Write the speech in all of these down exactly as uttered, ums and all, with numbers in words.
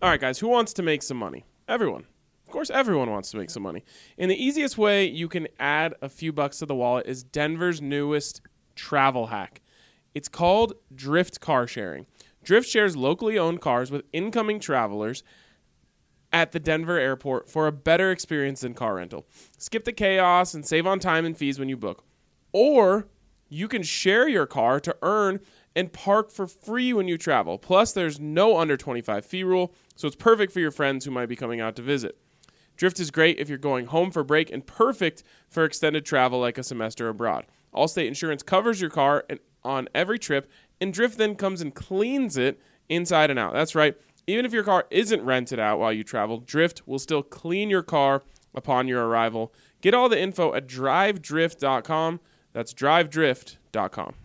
All right, guys, who wants to make some money? Everyone. Of course, everyone wants to make some money. And the easiest way you can add a few bucks to the wallet is Denver's newest travel hack. It's called Drift Car Sharing. Drift shares locally owned cars with incoming travelers at the Denver airport for a better experience than car rental. Skip the chaos and save on time and fees when you book. Or you can share your car to earn and park for free when you travel. Plus, there's no under twenty-five fee rule, so it's perfect for your friends who might be coming out to visit. Drift is great if you're going home for break and perfect for extended travel like a semester abroad. Allstate Insurance covers your car and on every trip, and Drift then comes and cleans it inside and out. That's right. Even if your car isn't rented out while you travel, Drift will still clean your car upon your arrival. Get all the info at drive drift dot com. That's drive drift dot com.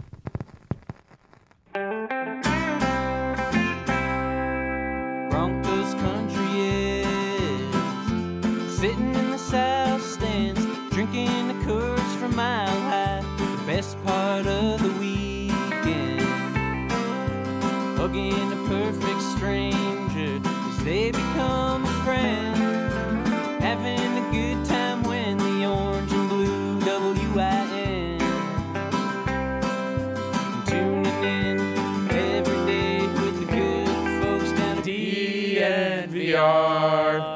Broncos country is sitting in the south stands, drinking the Coors from Mile High. The best part of the weekend, hugging a perfect stranger as they become a friend, having a good time when the orange and blue W I N, tuning in every day with the good folks down at D N V R.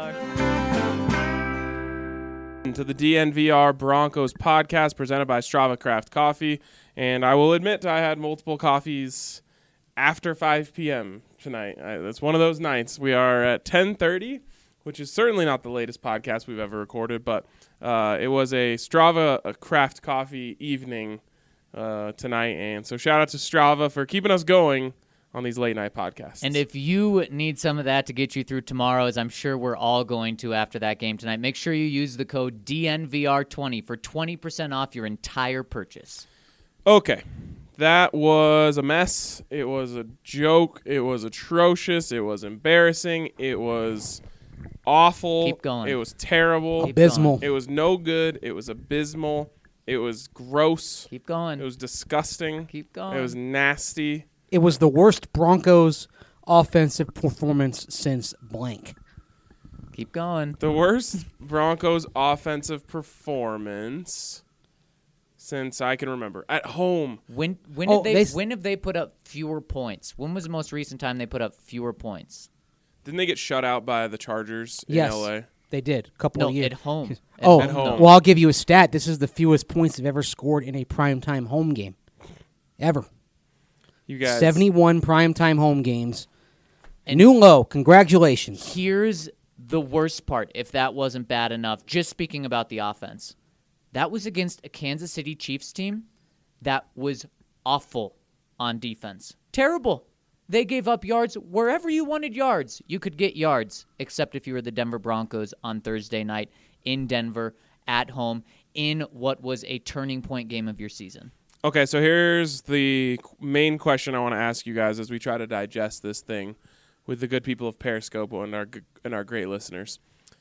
To the D N V R Broncos podcast presented by Strava Craft Coffee. And I will admit I had multiple coffees after five p.m. tonight. I, it's one of those nights. We are at ten thirty, which is certainly not the latest podcast we've ever recorded, but uh, it was a Strava a Craft Coffee evening uh, tonight. And so shout out to Strava for keeping us going on these late night podcasts. And if you need some of that to get you through tomorrow, as I'm sure we're all going to after that game tonight, make sure you use the code D N V R twenty for twenty percent off your entire purchase. Okay. That was a mess. It was a joke. It was atrocious. It was embarrassing. It was awful. Keep going. It was terrible. Keep Abysmal. going. It was no good. It was abysmal. It was gross. Keep going. It was disgusting. Keep going. It was nasty. It was the worst Broncos offensive performance since blank. Keep going. The worst Broncos offensive performance since I can remember. At home. When when Oh, did they, they s- when have they put up fewer points? When was the most recent time they put up fewer points? Didn't they get shut out by the Chargers in Yes. L A? They did. A couple No, of years. at home. At Oh, At home. well, I'll give you a stat. This is the fewest points they've ever scored in a primetime home game. Ever. You guys. seventy-one primetime home games. And New low. Congratulations. Here's the worst part, if that wasn't bad enough, just speaking about the offense. That was against a Kansas City Chiefs team that was awful on defense. Terrible. They gave up yards wherever you wanted yards. You could get yards, except if you were the Denver Broncos on Thursday night in Denver at home in what was a turning point game of your season. Okay, so here's the main question I want to ask you guys as we try to digest this thing with the good people of Periscope and our and our great listeners.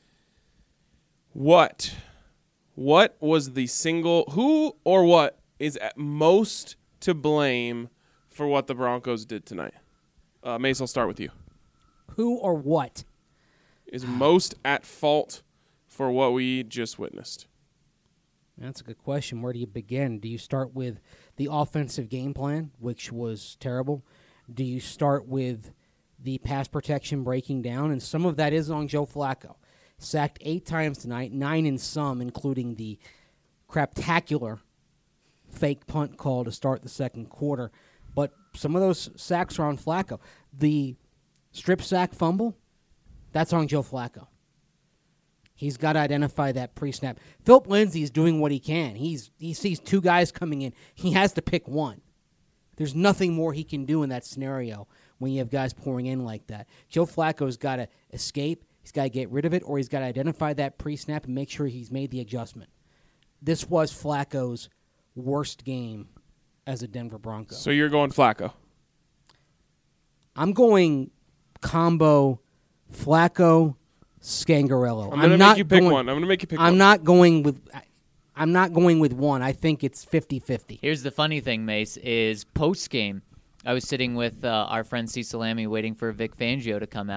What, what was the single, who or what is at most to blame for what the Broncos did tonight? Uh, Mace, I'll start with you. Who or what? Is most at fault for what we just witnessed? That's a good question. Where do you begin? Do you start with the offensive game plan, which was terrible? Do you start with the pass protection breaking down? And some of that is on Joe Flacco. Sacked eight times tonight, nine in some, including the craptacular fake punt call to start the second quarter. But some of those sacks are on Flacco. The strip sack fumble, that's on Joe Flacco. He's got to identify that pre-snap. Philip Lindsay is doing what he can. He's he sees two guys coming in. He has to pick one. There's nothing more he can do in that scenario when you have guys pouring in like that. Joe Flacco's got to escape. He's got to get rid of it, or he's got to identify that pre-snap and make sure he's made the adjustment. This was Flacco's worst game as a Denver Bronco. So you're going Flacco. I'm going combo Flacco, Scangarello. I'm going to not make you pick going, one. I'm going to make you pick I'm one. not going with I'm not going with one. I think it's fifty-fifty. Here's the funny thing, Mace, is post-game, I was sitting with uh, our friend C. Salami waiting for Vic Fangio to come out,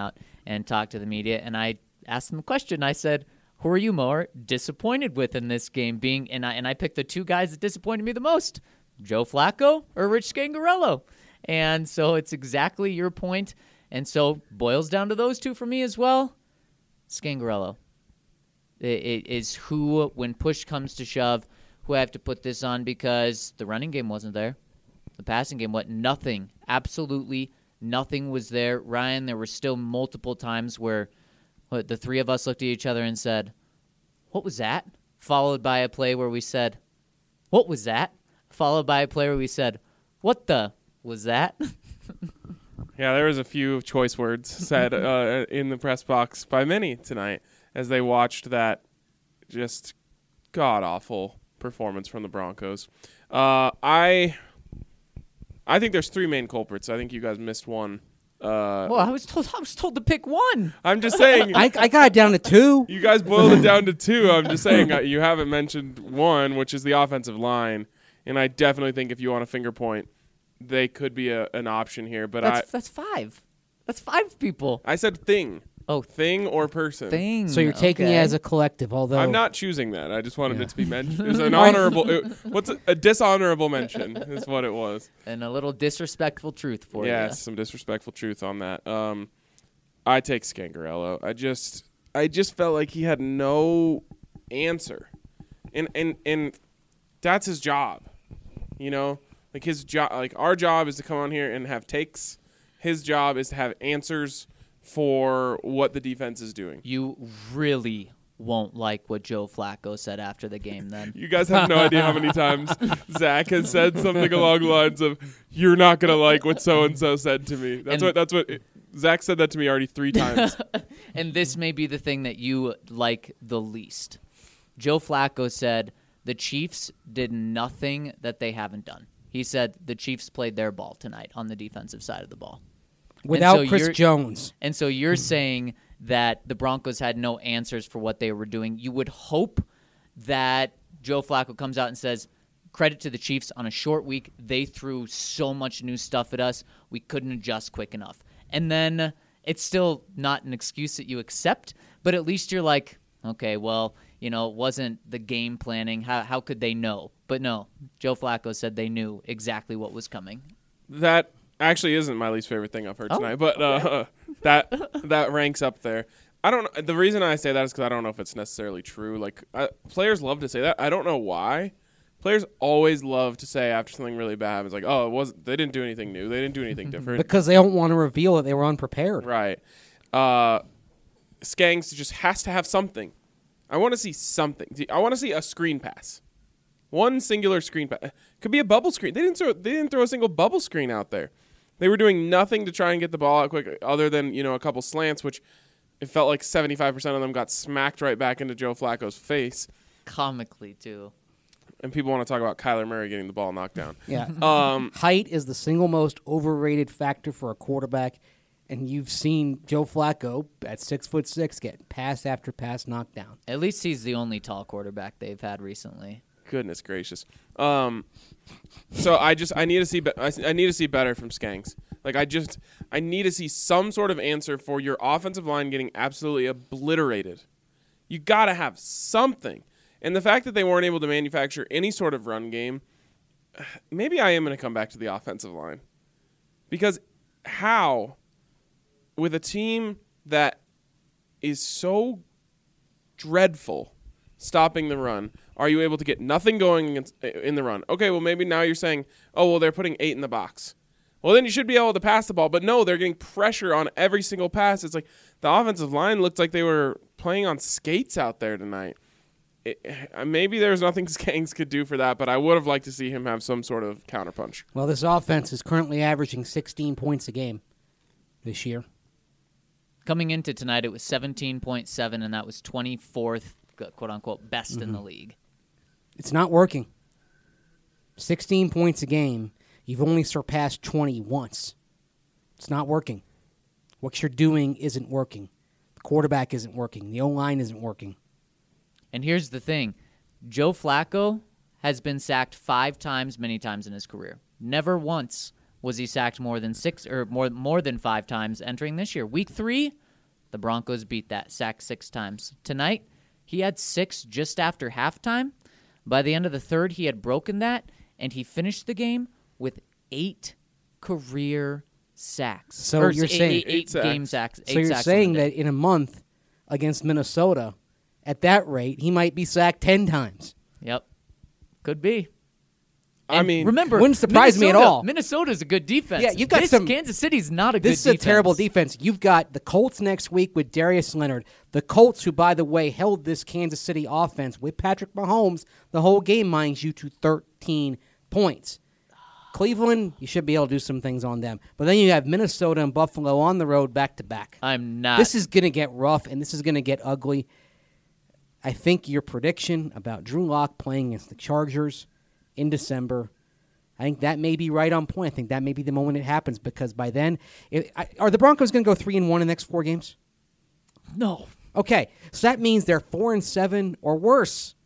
and talked to the media, and I asked them a question. I said, who are you more disappointed with in this game? Being and I and I picked the two guys that disappointed me the most, Joe Flacco or Rich Scangarello. And so it's exactly your point. And so boils down to those two for me as well. Scangarello. It, it is who, when push comes to shove, who I have to put this on because the running game wasn't there. The passing game, what? Nothing. Absolutely nothing was there. Ryan, there were still multiple times where what, the three of us looked at each other and said, what was that? Followed by a play where we said, what was that? Followed by a play where we said, what the was that? Yeah, there was a few choice words said uh, in the press box by many tonight as they watched that just god-awful performance from the Broncos. Uh, I I think there's three main culprits. I think you guys missed one. Uh, well, I was told I was told to pick one. I'm just saying. I, I got it down to two. You guys boiled it down to two. I'm just saying uh, you haven't mentioned one, which is the offensive line. And I definitely think if you want a finger point, they could be a, an option here. But that's, I that's five. That's five people. I said thing. Oh, thing or person. Thing. So you're taking okay. it as a collective, although I'm not choosing that. I just wanted Yeah. it to be mentioned. It's an honorable. It, what's a, a dishonorable mention is what it was. And a little disrespectful truth for Yes, you. some disrespectful truth on that. Um, I take Scangarello. I just, I just felt like he had no answer, and and and that's his job, you know. Like his job, like our job is to come on here and have takes. His job is to have answers for what the defense is doing. You really won't like what Joe Flacco said after the game then. You guys have no idea how many times Zach has said something along the lines of, "You're not gonna like what so and so said to me." That's And- what. That's what. Zach said that to me already three times. And this may be the thing that you like the least. Joe Flacco said the Chiefs did nothing that they haven't done. He said the Chiefs played their ball tonight on the defensive side of the ball. without so Chris you're- Jones. And so you're saying that the Broncos had no answers for what they were doing. You would hope that Joe Flacco comes out and says, credit to the Chiefs on a short week. They threw so much new stuff at us. We couldn't adjust quick enough. And then it's still not an excuse that you accept, but at least you're like, okay, well, you know, it wasn't the game planning. How, how could they know? But no, Joe Flacco said they knew exactly what was coming. That actually isn't my least favorite thing I've heard Oh, tonight, but uh, that that ranks up there. I don't. The reason I say that is because I don't know if it's necessarily true. Like I, players love to say that. I don't know why. Players always love to say after something really bad happens, like, "Oh, it was they didn't do anything new. They didn't do anything different." Because they don't want to reveal that they were unprepared. Right. Uh, Skanks just has to have something. I want to see something. I want to see a screen pass. One singular screen pass. Could be a bubble screen. They didn't throw. They didn't throw a single bubble screen out there. They were doing nothing to try and get the ball out quick, other than you know a couple slants, which it felt like seventy-five percent of them got smacked right back into Joe Flacco's face. Comically, too. And people want to talk about Kyler Murray getting the ball knocked down. Yeah. Um, Height is the single most overrated factor for a quarterback, and you've seen Joe Flacco at six foot six get pass after pass knocked down. At least he's the only tall quarterback they've had recently. Goodness gracious. Um, so I just I need to see be- I, I need to see better from Skanks. Like I just I need to see some sort of answer for your offensive line getting absolutely obliterated. You got to have something. And the fact that they weren't able to manufacture any sort of run game, maybe I am going to come back to the offensive line. Because how with a team that is so dreadful stopping the run, are you able to get nothing going against, in the run? Okay, well, maybe now you're saying, oh, well, they're putting eight in the box. Well, then you should be able to pass the ball. But no, they're getting pressure on every single pass. It's like the offensive line looked like they were playing on skates out there tonight. It, maybe there's nothing Skanks could do for that, but I would have liked to see him have some sort of counterpunch. Well, this offense is currently averaging sixteen points a game this year. Coming into tonight, it was seventeen point seven, and that was twenty-fourth, quote-unquote, best Mm-hmm. in the league. It's not working. sixteen points a game. You've only surpassed twenty once. It's not working. What you're doing isn't working. The quarterback isn't working. The O-line isn't working. And here's the thing. Joe Flacco has been sacked five times, many times in his career. Never once was he sacked more than six or more more than five times entering this year. Week three, The Broncos beat that, sacked six times. Tonight, he had six just after halftime. By the end of the third, he had broken that, and he finished the game with eight career sacks. So Or you're eight, saying- eight, Eight eight sacks. game sacks. Eight So you're sacks on saying the day. that in a month against Minnesota, at that rate, he might be sacked ten times. Yep, could be. I And mean, remember, wouldn't surprise me at Minnesota- all. Minnesota's a good defense. Yeah, you've got this, some- Kansas City's not a This good is a terrible defense. You've got the Colts next week with Darius Leonard. The Colts, who, by the way, held this Kansas City offense with Patrick Mahomes the whole game, mind you, to thirteen points. Cleveland, you should be able to do some things on them. But then you have Minnesota and Buffalo on the road back to back. I'm not. This is going to get rough, and this is going to get ugly. I think your prediction about Drew Lock playing against the Chargers in December, I think that may be right on point. I think that may be the moment it happens, because by then, it, I, are the Broncos going to go three and one in the next four games? no. Okay, so that means they're four and seven or worse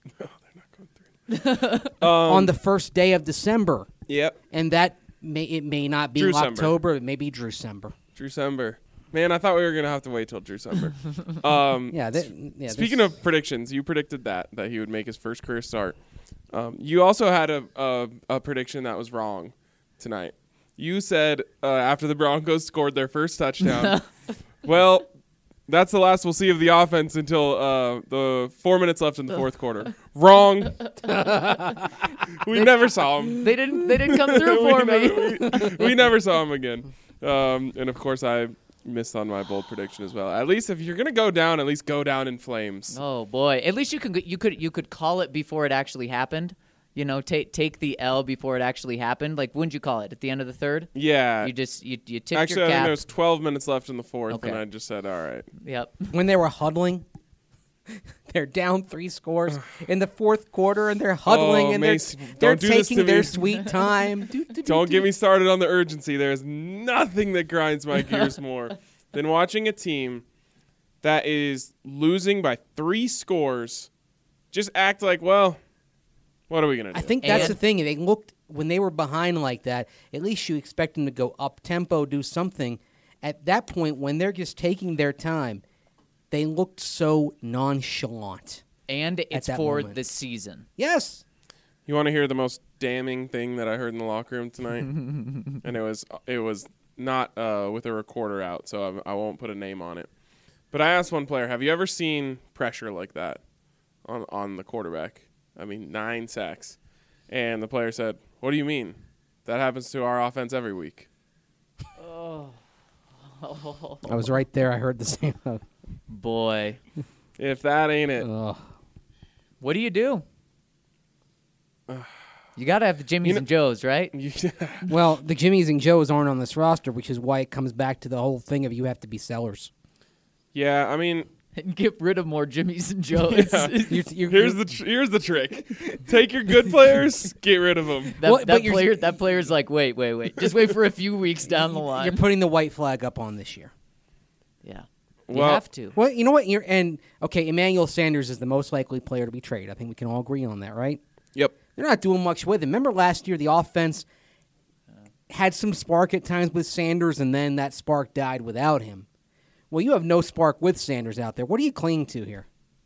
on the first day of December, Yep. and that may it may not be Drewcember. October. It may be Drewcember. Drewcember. Man, I thought we were gonna have to wait till Drewcember. um, Yeah. That, yeah Speaking this- of predictions, you predicted that that he would make his first career start. Um, you also had a, a a prediction that was wrong tonight. You said uh, after the Broncos scored their first touchdown, well, that's the last we'll see of the offense until uh, the four minutes left in the fourth quarter. Wrong. We never saw him. They didn't. They didn't come through we for me. Never, we, we never saw him again. Um, and of course, I missed on my bold prediction as well. At least if you're gonna go down, at least go down in flames. Oh boy! At least you can you could you could call it before it actually happened. You know, take take the L before it actually happened. Like, wouldn't you call it at the end of the third? Yeah. You just you you tipped Actually, your I think cap. there was twelve minutes left in the fourth, Okay. and I just said, "All right." Yep. when they were huddling, they're down three scores in the fourth quarter, and they're huddling, Oh, and Mace, they're, they're don't do this taking to their me. sweet time. Do, do, do, Don't do. get me started on the urgency. There's nothing that grinds my gears more than watching a team that is losing by three scores just act like, well, what are we gonna do? I think that's And- the thing. They looked when they were behind like that. At least you expect them to go up tempo, do something. At that point, when they're just taking their time, they looked so nonchalant. And it's that for moment. the season. Yes. You want to hear the most damning thing that I heard in the locker room tonight? And it was it was not uh, with a recorder out, so I, I won't put a name on it. But I asked one player, "Have you ever seen pressure like that on on the quarterback? I mean, nine sacks." And the player said, "What do you mean? That happens to our offense every week." I was right there. I heard the same. Boy, If that ain't it, Ugh. what do you do? You got to have the Jimmys You know- and Joes, right? you, Well, the Jimmies and Joes aren't on this roster, which is why it comes back to the whole thing of you have to be sellers. yeah. I mean, And get rid of more Jimmys and Joes. You're, you're, here's the tr- here's the trick: take your good players, get rid of them. That, Well, but that you're- player, that player's like, wait, wait, wait. Just wait for a few weeks down the line. you're putting the white flag up on this year. yeah, Well- you have to. Well, you know what? You're and okay. Emmanuel Sanders is the most likely player to be traded. I think we can all agree on that, right? Yep. They're not doing much with him. Remember last year, the offense had some spark at times with Sanders, and then that spark died without him. Well, you have no spark with Sanders out there. What are you clinging to here?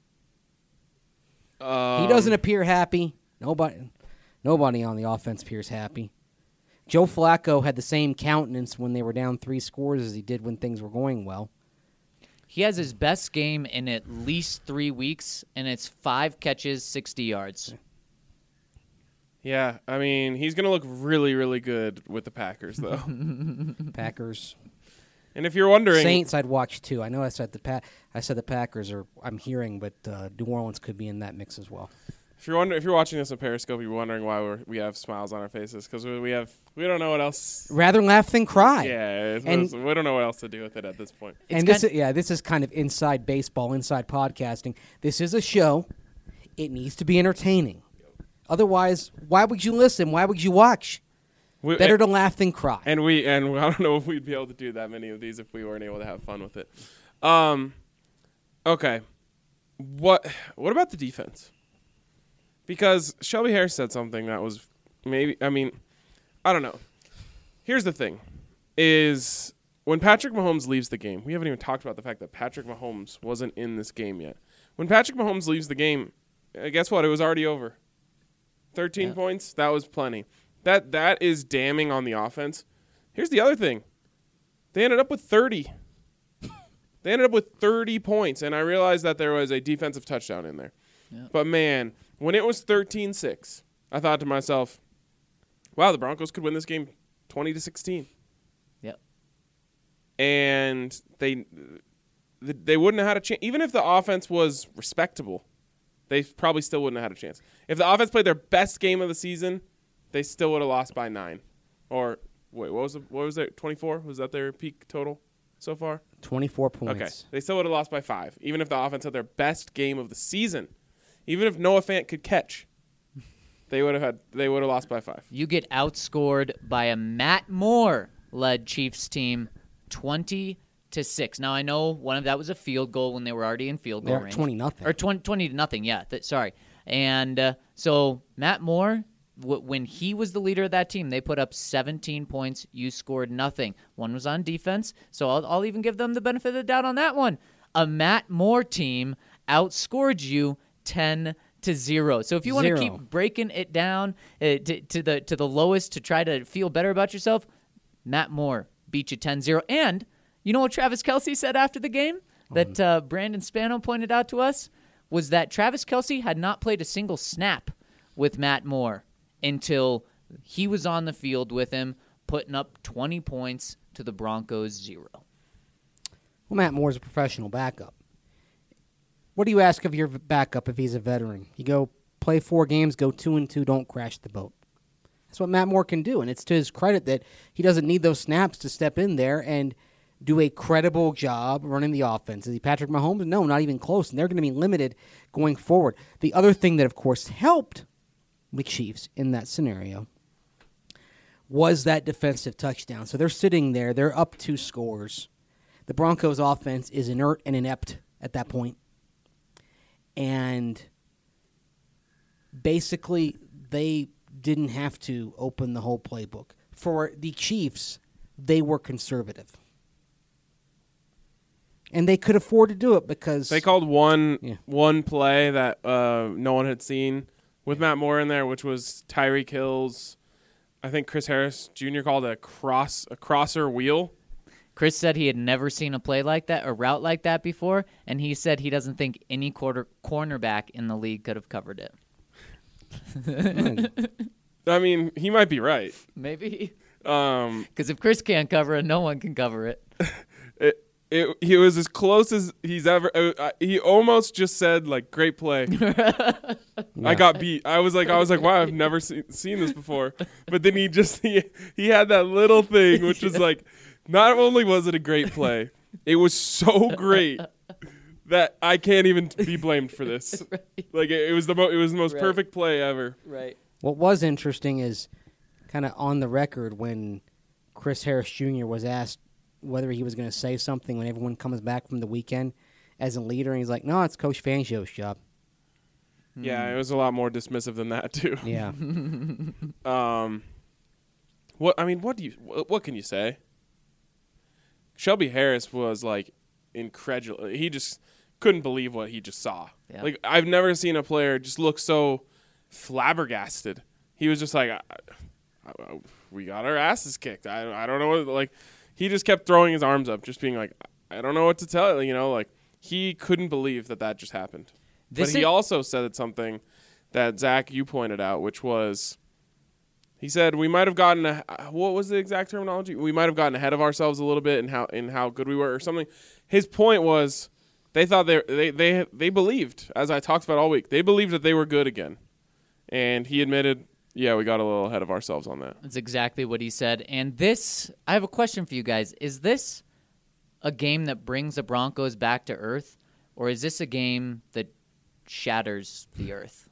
Um, He doesn't appear happy. Nobody, nobody on the offense appears happy. Joe Flacco had the same countenance when they were down three scores as he did when things were going well. He has his best game in at least three weeks, and it's five catches, sixty yards. Yeah, I mean, he's going to look really, really good with the Packers, though. Packers, And if you're wondering, Saints, I'd watch too. I know I said the pa- I said the Packers are. I'm hearing, but uh, New Orleans could be in that mix as well. if you're wonder, if you're watching this on Periscope, you're wondering why we're, we have smiles on our faces because we, we have we don't know what else. Rather laugh than cry. Yeah, it's, And- it's- we don't know what else to do with it at this point. It's and this kind- is, yeah, this is kind of inside baseball, inside podcasting. This is a show. It needs to be entertaining. Otherwise, why would you listen? Why would you watch? We, Better and, to laugh than cry. and we and I don't know if we'd be able to do that many of these if we weren't able to have fun with it. Um, okay, what what about the defense? Because Shelby Harris said something that was maybe I mean I don't know. Here's the thing: is when Patrick Mahomes leaves the game, we haven't even talked about the fact that Patrick Mahomes wasn't in this game yet. When Patrick Mahomes leaves the game, uh, guess what? It was already over. thirteen Yeah. points, that was plenty. That That is damning on the offense. Here's the other thing. They ended up with thirty. They ended up with thirty points, and I realized that there was a defensive touchdown in there. Yeah. But, man, when it was thirteen six, I thought to myself, wow, the Broncos could win this game twenty to sixteen. Yep. And they they wouldn't have had a chance. Even if the offense was respectable, they probably still wouldn't have had a chance. If the offense played their best game of the season, they still would have lost by nine. Or, wait, what was, the, what was it, twenty-four? Was that their peak total so far? twenty-four points. Okay. They still would have lost by five, even if the offense had their best game of the season. Even if Noah Fant could catch, they would have had they would have lost by five. You get outscored by a Matt Moore-led Chiefs team, twenty to six. Now I know one of that was a field goal when they were already in field goal They're range. twenty nothing. Or twenty, twenty to nothing. Yeah, th- sorry. And uh, so Matt Moore, w- when he was the leader of that team, they put up seventeen points. You scored nothing. One was on defense, so I'll, I'll even give them the benefit of the doubt on that one. A Matt Moore team outscored you ten to zero. So if you want to Zero. keep breaking it down uh, to, to the to the lowest to try to feel better about yourself, Matt Moore beat you ten zero. And you know what Travis Kelce said after the game that uh, Brandon Spano pointed out to us? Was that Travis Kelce had not played a single snap with Matt Moore until he was on the field with him, putting up twenty points to the Broncos zero. Well, Matt Moore's a professional backup. What do you ask of your v- backup if he's a veteran? You go play four games, go two and two, don't crash the boat. That's what Matt Moore can do, and it's to his credit that he doesn't need those snaps to step in there and do a credible job running the offense. Is he Patrick Mahomes? No, not even close, and they're going to be limited going forward. The other thing that, of course, helped the Chiefs in that scenario was that defensive touchdown. So they're sitting there. They're up two scores. The Broncos' offense is inert and inept at that point. And basically, they didn't have to open the whole playbook. For the Chiefs, they were conservative. And they could afford to do it because They called one Yeah. one play that uh, no one had seen with Matt Moore in there, which was Tyreek Hill's. I think Chris Harris Junior called a cross a crosser wheel. Chris said he had never seen a play like that, a route like that before, and he said he doesn't think any quarter cornerback in the league could have covered it. I mean, he might be right. Maybe. Um, Because if Chris can't cover it, no one can cover it. it, it he was as close as he's ever. Uh, uh, he almost just said like, "Great play." I got beat. I was like, I was like, wow, I've never seen seen this before. But then he just he he had that little thing, which was like, not only was it a great play, it was so great that I can't even be blamed for this. Right. Like it, it was the mo- it was the most Right. perfect play ever. Right. what was interesting is kind of on the record when Chris Harris Junior was asked whether he was going to say something when everyone comes back from the weekend as a leader, and he's like, no, it's Coach Fangio's job. Yeah, it was a lot more dismissive than that too. Yeah. Um, what I mean, what do you what, what can you say? Shelby Harris was like incredulous. He just couldn't believe what he just saw. Yeah. Like I've never seen a player just look so flabbergasted. He was just like, I, I, "We got our asses kicked." I I don't know what like. He just kept throwing his arms up, just being like, "I don't know what to tell you." You know, like he couldn't believe that that just happened. This but he is- also said something that Zach you pointed out, which was. He said we might have gotten a, what was the exact terminology? We might have gotten ahead of ourselves a little bit in how in how good we were or something. His point was they thought they they they they believed, as I talked about all week. They believed that they were good again. And he admitted, yeah, we got a little ahead of ourselves on that. That's exactly what he said. And this, I have a question for you guys. Is this a game that brings the Broncos back to earth, or is this a game that shatters the earth?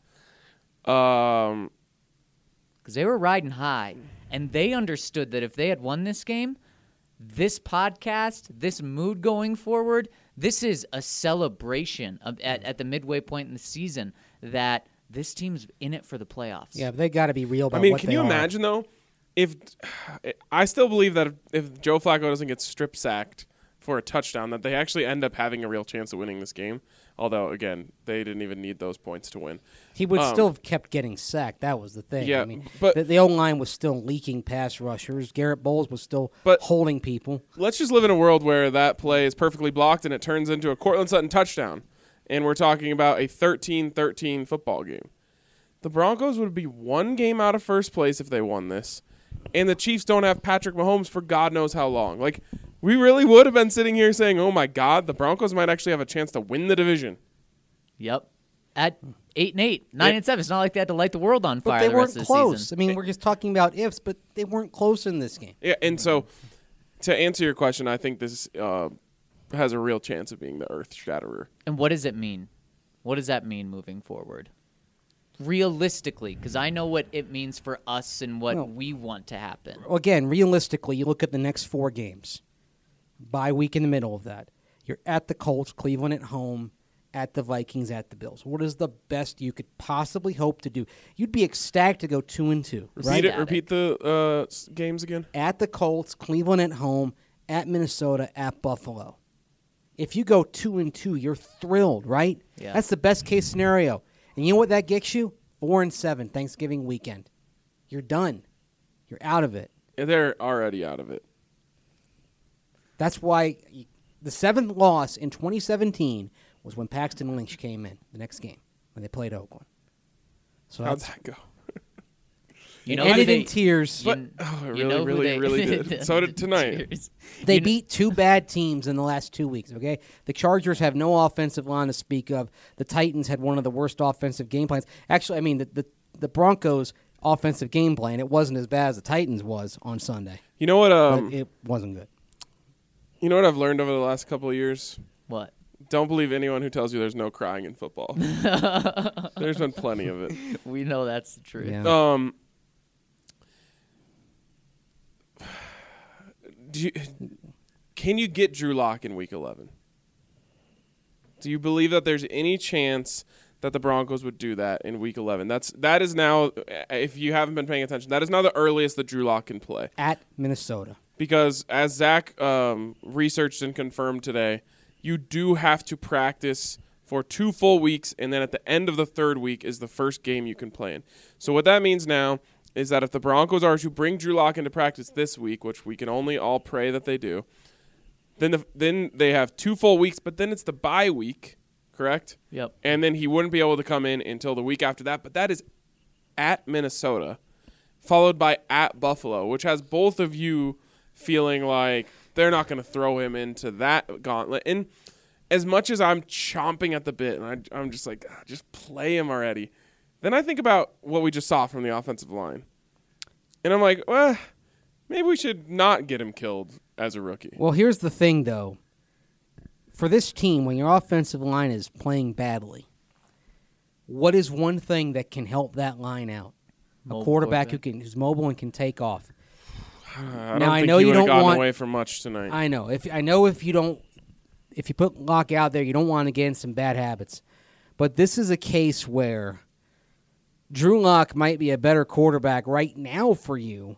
Um Because they were riding high, and they understood that if they had won this game, this podcast, this mood going forward, this is a celebration of, at, at the midway point in the season that this team's in it for the playoffs. Yeah, but they got to be real about I mean, what can they you are. imagine though? if I still believe that if, if Joe Flacco doesn't get strip sacked for a touchdown, that they actually end up having a real chance of winning this game. Although, again, they didn't even need those points to win. He would Um, still have kept getting sacked. That was the thing. Yeah, I mean, but- the, the O-line was still leaking pass rushers. Garrett Bowles was still But- holding people. Let's just live in a world where that play is perfectly blocked and it turns into a Cortland Sutton touchdown. And we're talking about a thirteen thirteen football game. The Broncos would be one game out of first place if they won this. And the Chiefs don't have Patrick Mahomes for God knows how long. Like, we really would have been sitting here saying, oh, my God, the Broncos might actually have a chance to win the division. Yep. At eight and eight, nine Yeah. and seven. It's not like they had to light the world on But fire they the weren't rest of the close. season. I mean, we're just talking about ifs, but they weren't close in this game. Yeah, and so to answer your question, I think this uh, has a real chance of being the earth shatterer. And what does it mean? What does that mean moving forward? Realistically, because I know what it means for us and what No. we want to happen. Well, again, realistically, you look at the next four games. Bye week in the middle of that. You're at the Colts, Cleveland at home, at the Vikings, at the Bills. What is the best you could possibly hope to do? You'd be ecstatic to go two and two, Repeat right? it. Repeat the uh, s- games again. At the Colts, Cleveland at home, at Minnesota, at Buffalo. If you go two and two, you're thrilled, right? Yeah. That's the best case scenario. And you know what that gets you? Four and seven Thanksgiving weekend. You're done. You're out of it. Yeah, they're already out of it. That's why y- the seventh loss in twenty seventeen was when Paxton Lynch came in the next game when they played Oakland. So How'd that's that go? You it know who ended they, in tears. But you- oh, it you really, know who really, they- really did. So did tonight. Cheers. They You kn- beat two bad teams in the last two weeks, okay? The Chargers have no offensive line to speak of. The Titans had one of the worst offensive game plans. Actually, I mean, the, the, the Broncos' offensive game plan, it wasn't as bad as the Titans was on Sunday. You know what? Um, but it wasn't good. you know what I've learned over the last couple of years. What? Don't believe anyone who tells you there's no crying in football. There's been plenty of it. We know that's the truth. Yeah. Um, do you, can you get Drew Lock in Week eleven? Do you believe that there's any chance that the Broncos would do that in Week eleven? That's that is now, if you haven't been paying attention, that is now the earliest that Drew Lock can play. At Minnesota. Because as Zach um, researched and confirmed today, you do have to practice for two full weeks, and then at the end of the third week is the first game you can play in. So what that means now is that if the Broncos are to bring Drew Lock into practice this week, which we can only all pray that they do, then the, then they have two full weeks, but then it's the bye week, correct? Yep. And then he wouldn't be able to come in until the week after that, but that is at Minnesota, followed by at Buffalo, which has both of you feeling like they're not going to throw him into that gauntlet. And as much as I'm chomping at the bit, and I, I'm just like, "Ah, just play him already. Then I think about what we just saw from the offensive line. And I'm like, well, maybe we should not get him killed as a rookie. Well, here's the thing, though. For this team, when your offensive line is playing badly, what is one thing that can help that line out? A Mobile quarterback who quarterback. can who's mobile and can take off. I Now, don't I think know he you would have don't gotten want- away from much tonight. I know. If I know if you don't if you put Locke out there, you don't want to get in some bad habits. But this is a case where Drew Lock might be a better quarterback right now for you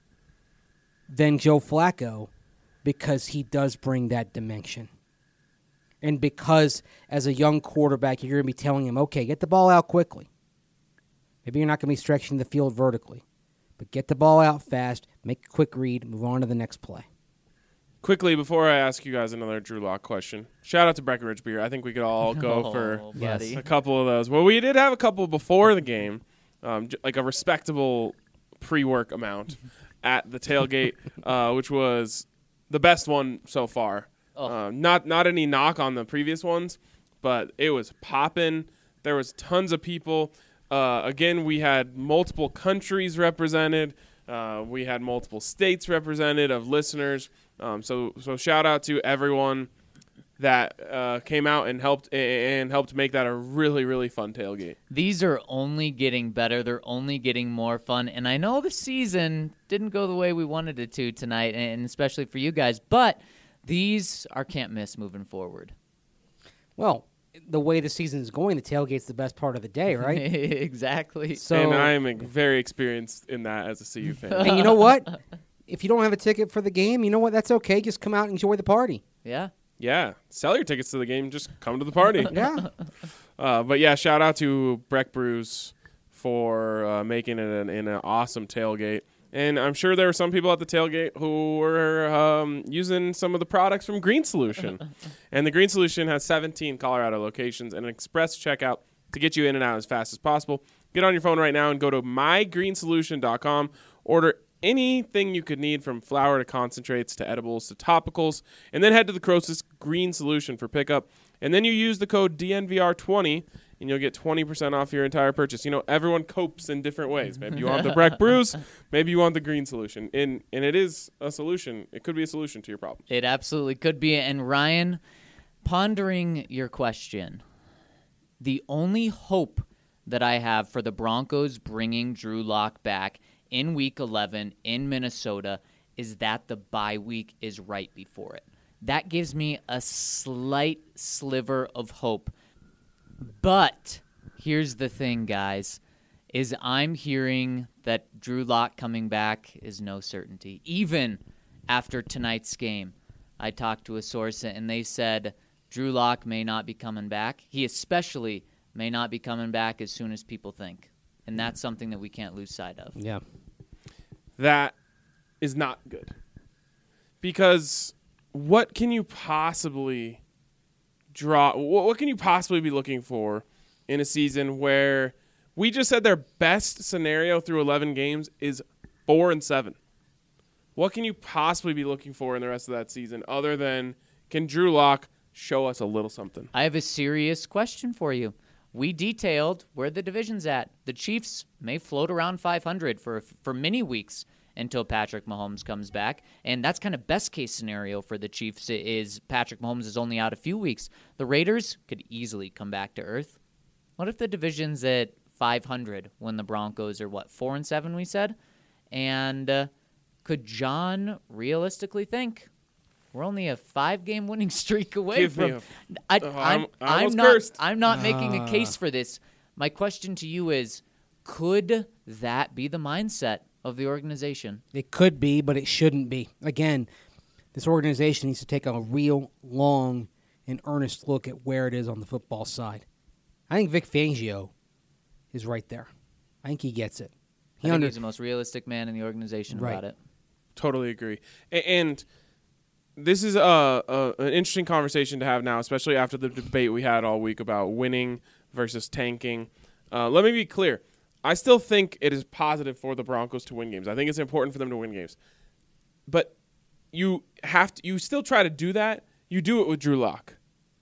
than Joe Flacco because he does bring that dimension. And because as a young quarterback, you're going to be telling him, okay, get the ball out quickly. Maybe you're not going to be stretching the field vertically. But get the ball out fast, make a quick read, move on to the next play. Quickly, before I ask you guys another Drew Lock question, shout out to Breckenridge Beer. I think we could all go Oh, for buddy. a couple of those. Well, we did have a couple before the game, um, j- like a respectable pre-work amount at the tailgate, uh, which was the best one so far. Oh. Uh, not not any knock on the previous ones, but it was popping. There was tons of people. Uh, again, we had multiple countries represented. Uh, we had multiple states represented of listeners. Um, so so shout out to everyone that uh, came out and helped and helped make that a really really fun tailgate. These are only getting better. They're only getting more fun. And I know the season didn't go the way we wanted it to tonight, and especially for you guys, but these are can't miss moving forward. Well, the way the season is going, the tailgate's the best part of the day, right? Exactly. So, and I am very experienced in that as a C U fan. and you know what? If you don't have a ticket for the game, you know what? That's okay. Just come out and enjoy the party. Yeah. Yeah, sell your tickets to the game. Just come to the party. Yeah. Uh, but yeah, shout out to Breck Brews for uh, making it an, an awesome tailgate. And I'm sure there were some people at the tailgate who were um, using some of the products from Green Solution. And the Green Solution has seventeen Colorado locations and an express checkout to get you in and out as fast as possible. Get on your phone right now and go to my green solution dot com. Order anything you could need, from flour to concentrates to edibles to topicals, and then head to the closest Green Solution for pickup. And then you use the code D N V R twenty, and you'll get twenty percent off your entire purchase. You know, everyone copes in different ways. Maybe you want the Breck Brews, maybe you want the Green Solution. And, and it is a solution. It could be a solution to your problem. It absolutely could be. And Ryan, pondering your question, the only hope that I have for the Broncos bringing Drew Lock back in Week eleven in Minnesota is that the bye week is right before it. That gives me a slight sliver of hope. But here's the thing, guys, is I'm hearing that Drew Lock coming back is no certainty. Even after tonight's game, I talked to a source, and they said Drew Lock may not be coming back. He especially may not be coming back as soon as people think. And that's something that we can't lose sight of. Yeah. That is not good. Because what can you possibly draw? What can you possibly be looking for in a season where we just said their best scenario through eleven games is four and seven? What can you possibly be looking for in the rest of that season other than, can Drew Lock show us a little something? I have a serious question for you. We detailed where the division's at. The Chiefs may float around five hundred for for many weeks until Patrick Mahomes comes back, and that's kind of best case scenario for the Chiefs is Patrick Mahomes is only out a few weeks. The Raiders could easily come back to earth. What if the division's at five hundred when the Broncos are, what, four and seven, we said? And uh, could John realistically think we're only a five-game winning streak away Give from? me a, I, oh, I'm, I'm, I I'm almost not. cursed. I'm not making a case for this. My question to you is: could that be the mindset of the organization? It could be, but it shouldn't be. Again, this organization needs to take a real long and earnest look at where it is on the football side. I think Vic Fangio is right there. I think he gets it. He I think under- he's the most realistic man in the organization Right. about it. Totally agree. A- And this is a, a an interesting conversation to have now, especially after the debate we had all week about winning versus tanking. Uh, let me be clear. I still think it is positive for the Broncos to win games. I think it's important for them to win games. But you have to, you still try to do that. You do it with Drew Lock.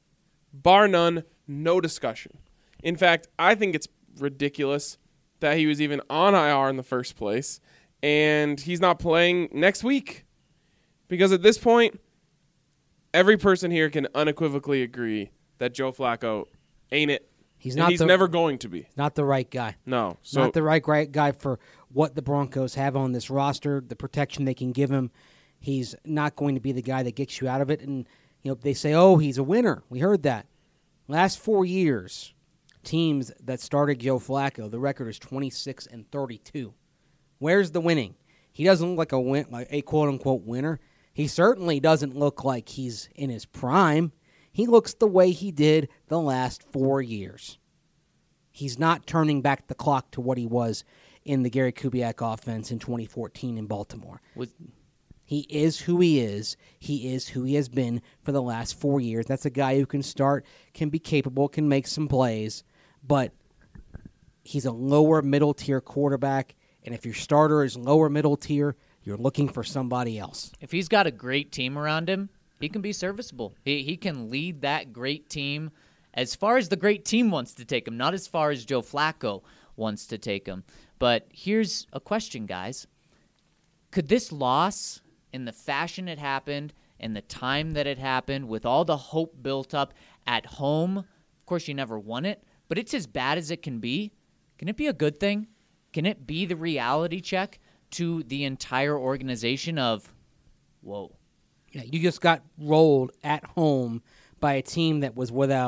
Bar none, no discussion. In fact, I think it's ridiculous that he was even on I R in the first place, and he's not playing next week. Because at this point, every person here can unequivocally agree that Joe Flacco ain't it. He's And not he's the, never going to be. not the right guy. No. So not the right, right guy for what the Broncos have on this roster, the protection they can give him. He's not going to be the guy that gets you out of it. And you know, they say, oh, he's a winner. We heard that. Last four years, teams that started Joe Flacco, the record is twenty-six and thirty-two. Where's the winning? He doesn't look like a win, like a quote-unquote winner. He certainly doesn't look like he's in his prime. He looks the way he did the last four years. He's not turning back the clock to what he was in the Gary Kubiak offense in twenty fourteen in Baltimore. Was, He is who he is. He is who he has been for the last four years. That's a guy who can start, can be capable, can make some plays, but he's a lower middle tier quarterback, and if your starter is lower middle tier, you're looking for somebody else. if he's got a great team around him, he can be serviceable. He he can lead that great team as far as the great team wants to take him, not as far as Joe Flacco wants to take him. But here's a question, guys. Could this loss, in the fashion it happened, and the time that it happened, with all the hope built up at home, of course you never won it, but it's as bad as it can be, can it be a good thing? Can it be the reality check to the entire organization of, whoa, Yeah, you just got rolled at home by a team that was without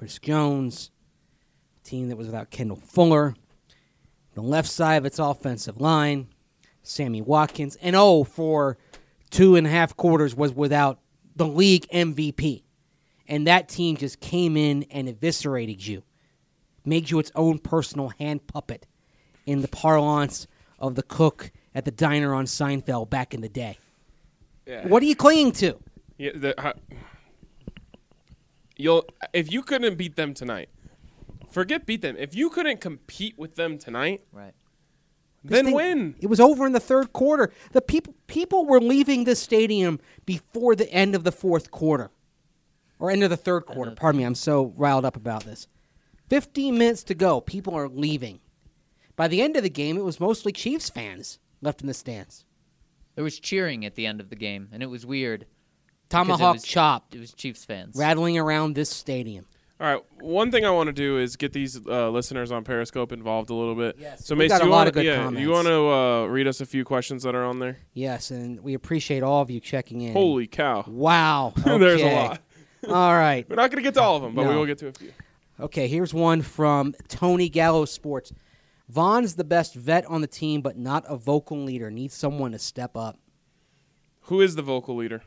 Chris Jones, a team that was without Kendall Fuller. The left side of its offensive line, Sammy Watkins. And oh, for two and a half quarters was without the league M V P. And that team just came in and eviscerated you. Made you its own personal hand puppet in the parlance of the cook at the diner on Seinfeld back in the day. Yeah. What are you clinging to? Yeah, the, uh, you'll if you couldn't beat them tonight, forget beat them. If you couldn't compete with them tonight, Right. then They- win. It was over in the third quarter. The people people were leaving the stadium before the end of the fourth quarter. Or end of the third quarter. Pardon me, I'm so riled up about this. fifteen minutes to go. People are leaving. By the end of the game, it was mostly Chiefs fans left in the stands. There was cheering at the end of the game, and it was weird. Tomahawk was- chop It was Chiefs fans. rattling around this stadium. All right. One thing I want to do is get these uh, listeners on Periscope involved a little bit. Yes, So, we Mace, got a you lot wanna, of good yeah, comments. You want to uh, read us a few questions that are on there? Yes, and we appreciate all of you checking in. Holy cow! Wow. There's a Okay. lot. All right. We're not going to get to all of them, but we No. will get to a few. Okay, here's one from Tony Gallo Sports. Vaughn's the best vet on the team, but not a vocal leader. Needs someone to step up. Who is the vocal leader?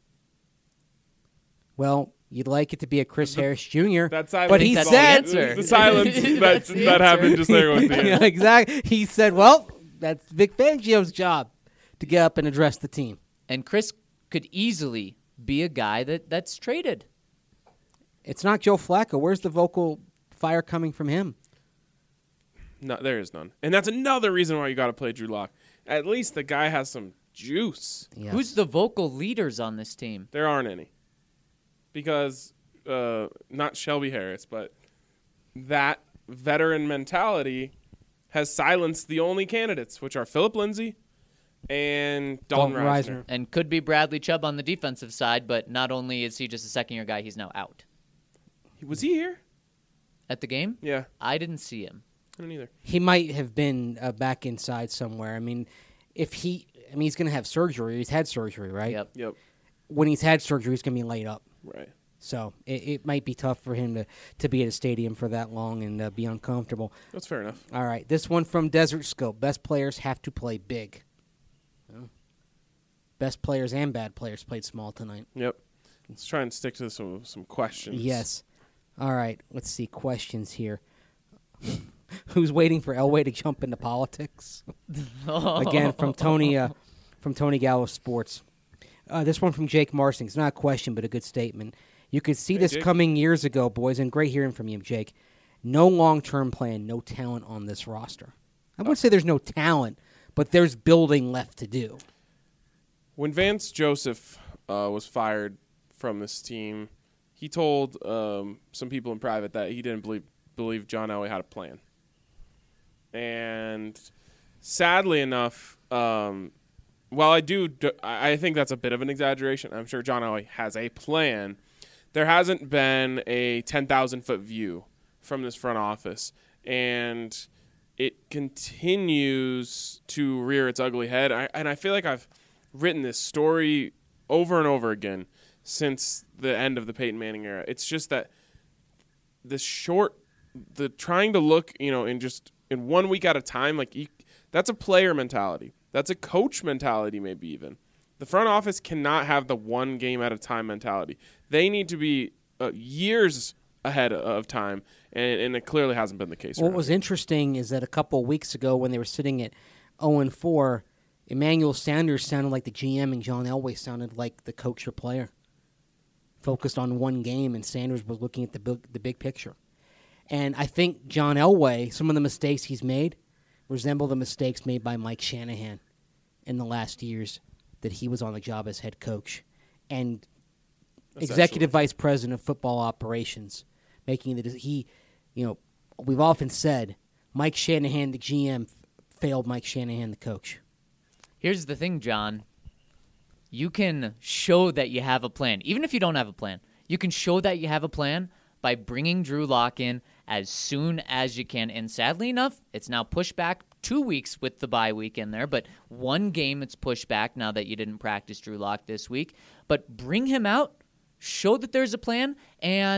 Well, you'd like it to be a Chris Harris Junior That silence. But he That's said, the answer. the silence that, That's the that answer. happened just there with the yeah, exactly. He said, well, that's Vic Fangio's job to get up and address the team. And Chris could easily be a guy that, that's traded. It's not Joe Flacco. Where's the vocal fire coming from him? No, there is none. And that's another reason why you got to play Drew Lock. At least the guy has some juice. Yes. Who's the vocal leaders on this team? There aren't any. Because, uh, not Shelby Harris, but that veteran mentality has silenced the only candidates, which are Philip Lindsay and Dalton, Dalton Reisner. Reisner. And could be Bradley Chubb on the defensive side, but not only is he just a second-year guy, he's now out. Was he here? At the game? Yeah, I didn't see him. I don't either. He might have been uh, back inside somewhere. I mean, if he, I mean, he's going to have surgery. He's had surgery, right? Yep. Yep, When he's had surgery, he's going to be laid up. right. So it, it might be tough for him to, to be at a stadium for that long and uh, be uncomfortable. That's fair enough. All right, this one from Desert Scope. Best players have to play big. Well, best players and bad players played small tonight. Yep. Let's try and stick to some some questions. Yes. All right, let's see questions here. Who's waiting for Elway to jump into politics? Again, from Tony uh, from Tony Gallo Sports. Uh, this one from Jake Marsing. It's not a question, but a good statement. You could see Hey, this Jake. coming years ago, boys, and great hearing from you, Jake. No long-term plan, no talent on this roster. I wouldn't say there's no talent, but there's building left to do. When Vance Joseph uh, was fired from this team, he told um, some people in private that he didn't believe believe John Elway had a plan. And sadly enough, um, while I do, do, I think that's a bit of an exaggeration. I'm sure John Elway has a plan. There hasn't been a ten thousand foot view from this front office, and it continues to rear its ugly head. I, and I feel like I've written this story over and over again since the end of the Peyton Manning era. It's just that the short, the trying to look, you know, in just in one week at a time, like you, that's a player mentality. That's a coach mentality, maybe even. The front office cannot have the one game at a time mentality. They need to be uh, years ahead of time, and, and it clearly hasn't been the case. What around was here. interesting is that a couple of weeks ago when they were sitting at oh and four, Emmanuel Sanders sounded like the G M and John Elway sounded like the coach or player. Focused on one game, and Sanders was looking at the big, the big picture. And I think John Elway, some of the mistakes he's made resemble the mistakes made by Mike Shanahan in the last years that he was on the job as head coach. And executive vice president of football operations, making the he, you know, we've often said Mike Shanahan, the G M, failed Mike Shanahan, the coach. Here's the thing, John. You can show that you have a plan. Even if you don't have a plan, you can show that you have a plan by bringing Drew Lock in as soon as you can. And sadly enough, it's now pushed back two weeks with the bye week in there, but one game it's pushed back now that you didn't practice Drew Lock this week. But bring him out, show that there's a plan, and uh,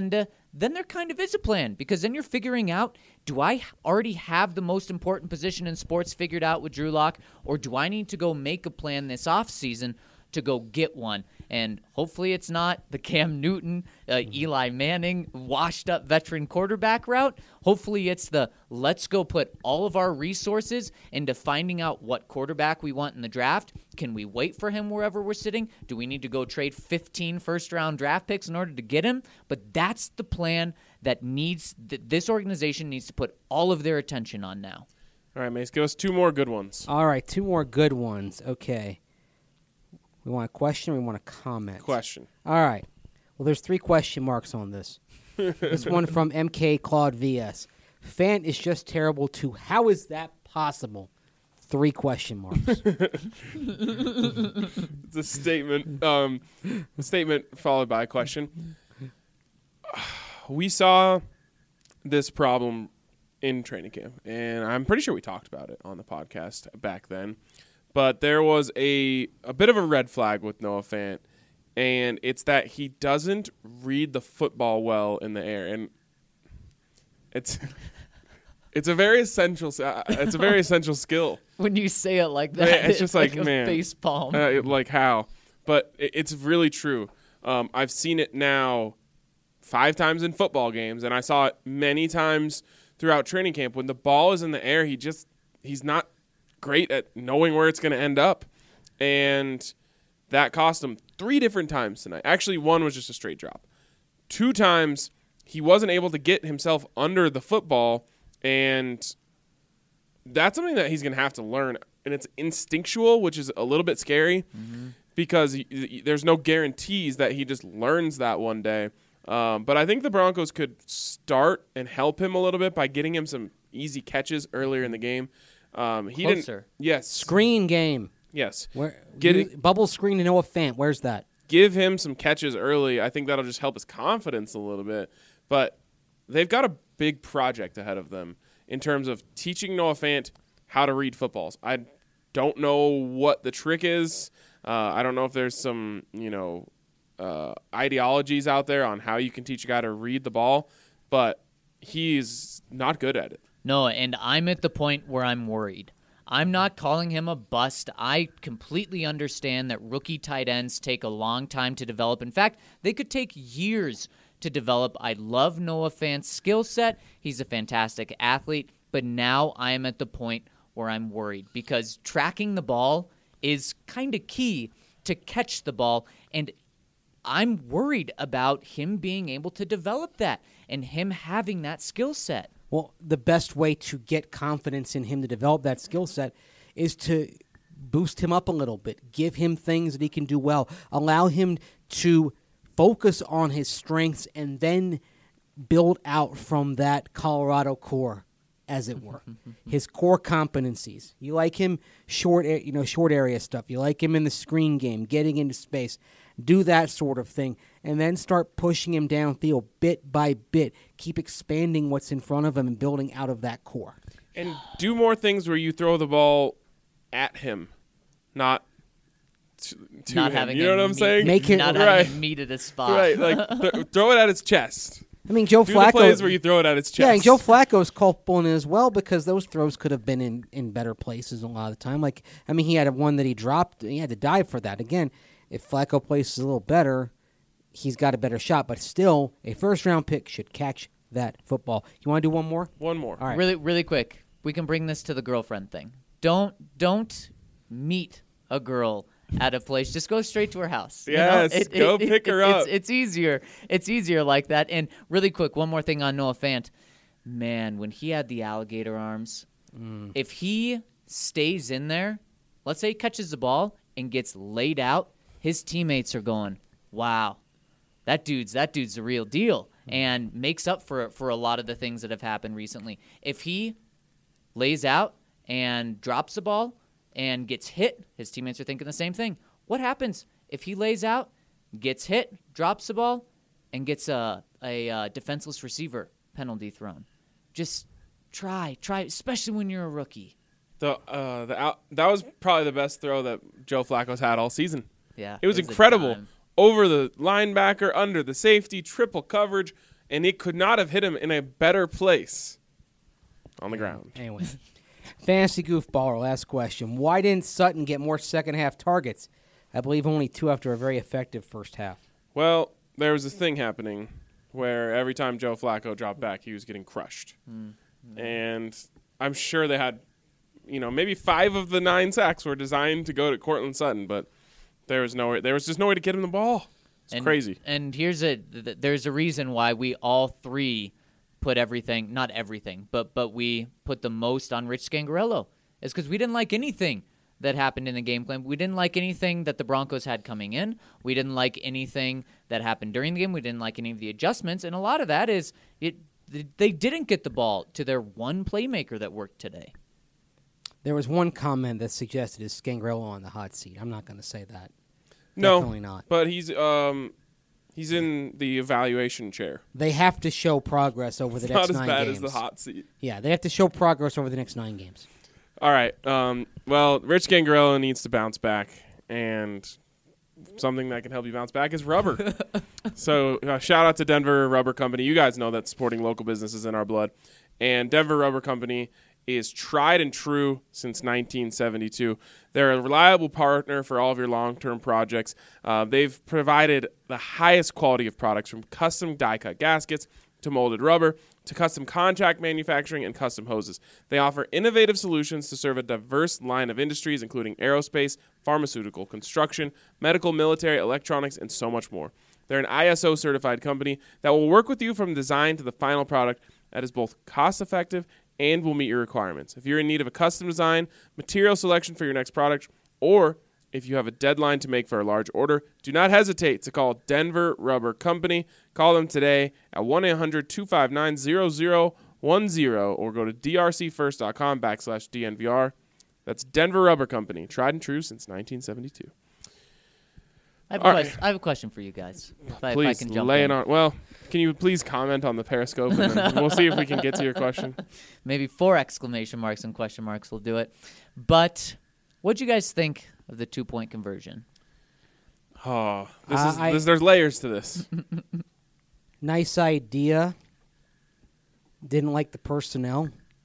then there kind of is a plan, because then you're figuring out, do I already have the most important position in sports figured out with Drew Lock, or do I need to go make a plan this offseason to go get one? And hopefully it's not the Cam Newton, uh, Eli Manning, washed-up veteran quarterback route. Hopefully it's the let's go put all of our resources into finding out what quarterback we want in the draft. Can we wait for him wherever we're sitting? Do we need to go trade fifteen first-round draft picks in order to get him? But that's the plan that needs th- this organization needs to put all of their attention on now. All right, Mace, give us two more good ones. All right, two more good ones. Okay. We want a question or we want a comment? Question. All right. Well, there's three question marks on this. This one from M K Claude V S. Fant is just terrible too. How is that possible? Three question marks. It's a statement. Um, a statement followed by a question. We saw this problem in training camp, and I'm pretty sure we talked about it on the podcast back then. But there was a a bit of a red flag with Noah Fant, and it's that he doesn't read the football well in the air, and it's it's a very essential uh, it's a very essential skill. When you say it like that, Yeah, it's it's just like, like, a man, face palm. Uh, like how? But it, it's really true. Um, I've seen it now five times in football games, and I saw it many times throughout training camp. When the ball is in the air, he just he's not great at knowing where it's going to end up, and that cost him three different times tonight. Actually, one was just a straight drop. Two times he wasn't able to get himself under the football, and that's something that he's going to have to learn, and it's instinctual, which is a little bit scary mm-hmm. because he, he, there's no guarantees that he just learns that one day. Um, but I think the Broncos could start and help him a little bit by getting him some easy catches earlier in the game. Um, he Closer. didn't. Yes. Screen game. Yes. Where Get you, it, bubble screen to Noah Fant. Where's that? Give him some catches early. I think that'll just help his confidence a little bit. But they've got a big project ahead of them in terms of teaching Noah Fant how to read footballs. I don't know what the trick is. Uh, I don't know if there's some, you know, uh, ideologies out there on how you can teach a guy to read the ball, but he's not good at it. No, and I'm at the point where I'm worried. I'm not calling him a bust. I completely understand that rookie tight ends take a long time to develop. In fact, they could take years to develop. I love Noah Fant's skill set. He's a fantastic athlete. But now I am at the point where I'm worried because tracking the ball is kind of key to catch the ball. And I'm worried about him being able to develop that and him having that skill set. Well, the best way to get confidence in him to develop that skill set is to boost him up a little bit, give him things that he can do well, allow him to focus on his strengths, and then build out from that Colorado core, as it were. His core competencies. You like him short, you know, short area stuff. You like him in the screen game, getting into space. Do that sort of thing, and then start pushing him downfield bit by bit. Keep expanding what's in front of him and building out of that core. And do more things where you throw the ball at him, not to, to not him. having you know what I'm meet, saying? Make it not right. having meet at a spot. Right, like th- throw it at his chest. I mean, Joe Do Flacco. the plays where you throw it at his chest. Yeah, and Joe Flacco's culpable in it as well because those throws could have been in, in better places a lot of the time. Like, I mean, he had a one that he dropped. He had to dive for that. Again, if Flacco plays a little better, he's got a better shot. But still, a first-round pick should catch that football. You want to do one more? One more. All right. Really, really quick. We can bring this to the girlfriend thing. Don't, don't meet a girl at a place. Just go straight to her house. you know? Yes, go pick her up. It's, it's easier. It's easier like that. And really quick, one more thing on Noah Fant. Man, when he had the alligator arms, mm. if he stays in there, let's say he catches the ball and gets laid out, his teammates are going, wow, that dude's that dude's the real deal, and makes up for for a lot of the things that have happened recently. If he lays out and drops the ball and gets hit, his teammates are thinking the same thing. What happens if he lays out, gets hit, drops the ball, and gets a, a, a defenseless receiver penalty thrown? Just try, try, especially when you're a rookie. The uh, the out, that was probably the best throw that Joe Flacco's had all season. Yeah, it was it was a incredible. dime. Over the linebacker, under the safety, triple coverage, and it could not have hit him in a better place on the ground. Anyway, fantasy goofball, our last question. Why didn't Sutton get more second half targets? I believe only two after a very effective first half. Well, there was a thing happening where every time Joe Flacco dropped back, he was getting crushed. Mm-hmm. And I'm sure they had, you know, maybe five of the nine sacks were designed to go to Cortland Sutton, but there was no, there was just no way to get him the ball. It's and, crazy. And here's a, th- there's a reason why we all three put everything, not everything, but but we put the most on Rich Scangarello. It's because we didn't like anything that happened in the game plan. We didn't like anything that the Broncos had coming in. We didn't like anything that happened during the game. We didn't like any of the adjustments. And a lot of that is it. They didn't get the ball to their one playmaker that worked today. There was one comment that suggested is Scangarello on the hot seat. I'm not going to say that. No, Definitely not. But he's um he's in the evaluation chair. They have to show progress over the It's next not as nine bad games. as the hot seat. Yeah, they have to show progress over the next nine games. All right. Um, well, Rich Scangarello needs to bounce back, and something that can help you bounce back is rubber. so uh, shout out to Denver Rubber Company. You guys know that supporting local businesses in our blood. And Denver Rubber Company is tried and true since nineteen seventy-two. They're a reliable partner for all of your long-term projects. Uh, they've provided the highest quality of products, from custom die-cut gaskets to molded rubber to custom contract manufacturing and custom hoses. They offer innovative solutions to serve a diverse line of industries, including aerospace, pharmaceutical, construction, medical, military, electronics, and so much more. They're an I S O-certified company that will work with you from design to the final product that is both cost-effective and will meet your requirements. If you're in need of a custom design, material selection for your next product, or if you have a deadline to make for a large order, do not hesitate to call Denver Rubber Company. Call them today at one eight hundred two five nine zero zero one zero or go to drcfirst.com backslash DNVR. That's Denver Rubber Company, tried and true since nineteen seventy-two. I have, a question, I have a question for you guys. If I, Please, if I can jump lay in. it on. Well, can you please comment on the Periscope, and then we'll see if we can get to your question. Maybe four exclamation marks and question marks will do it. But what'd you guys think of the two-point conversion? Oh, this Uh, is I- this, there's layers to this. Nice idea. Didn't like the personnel.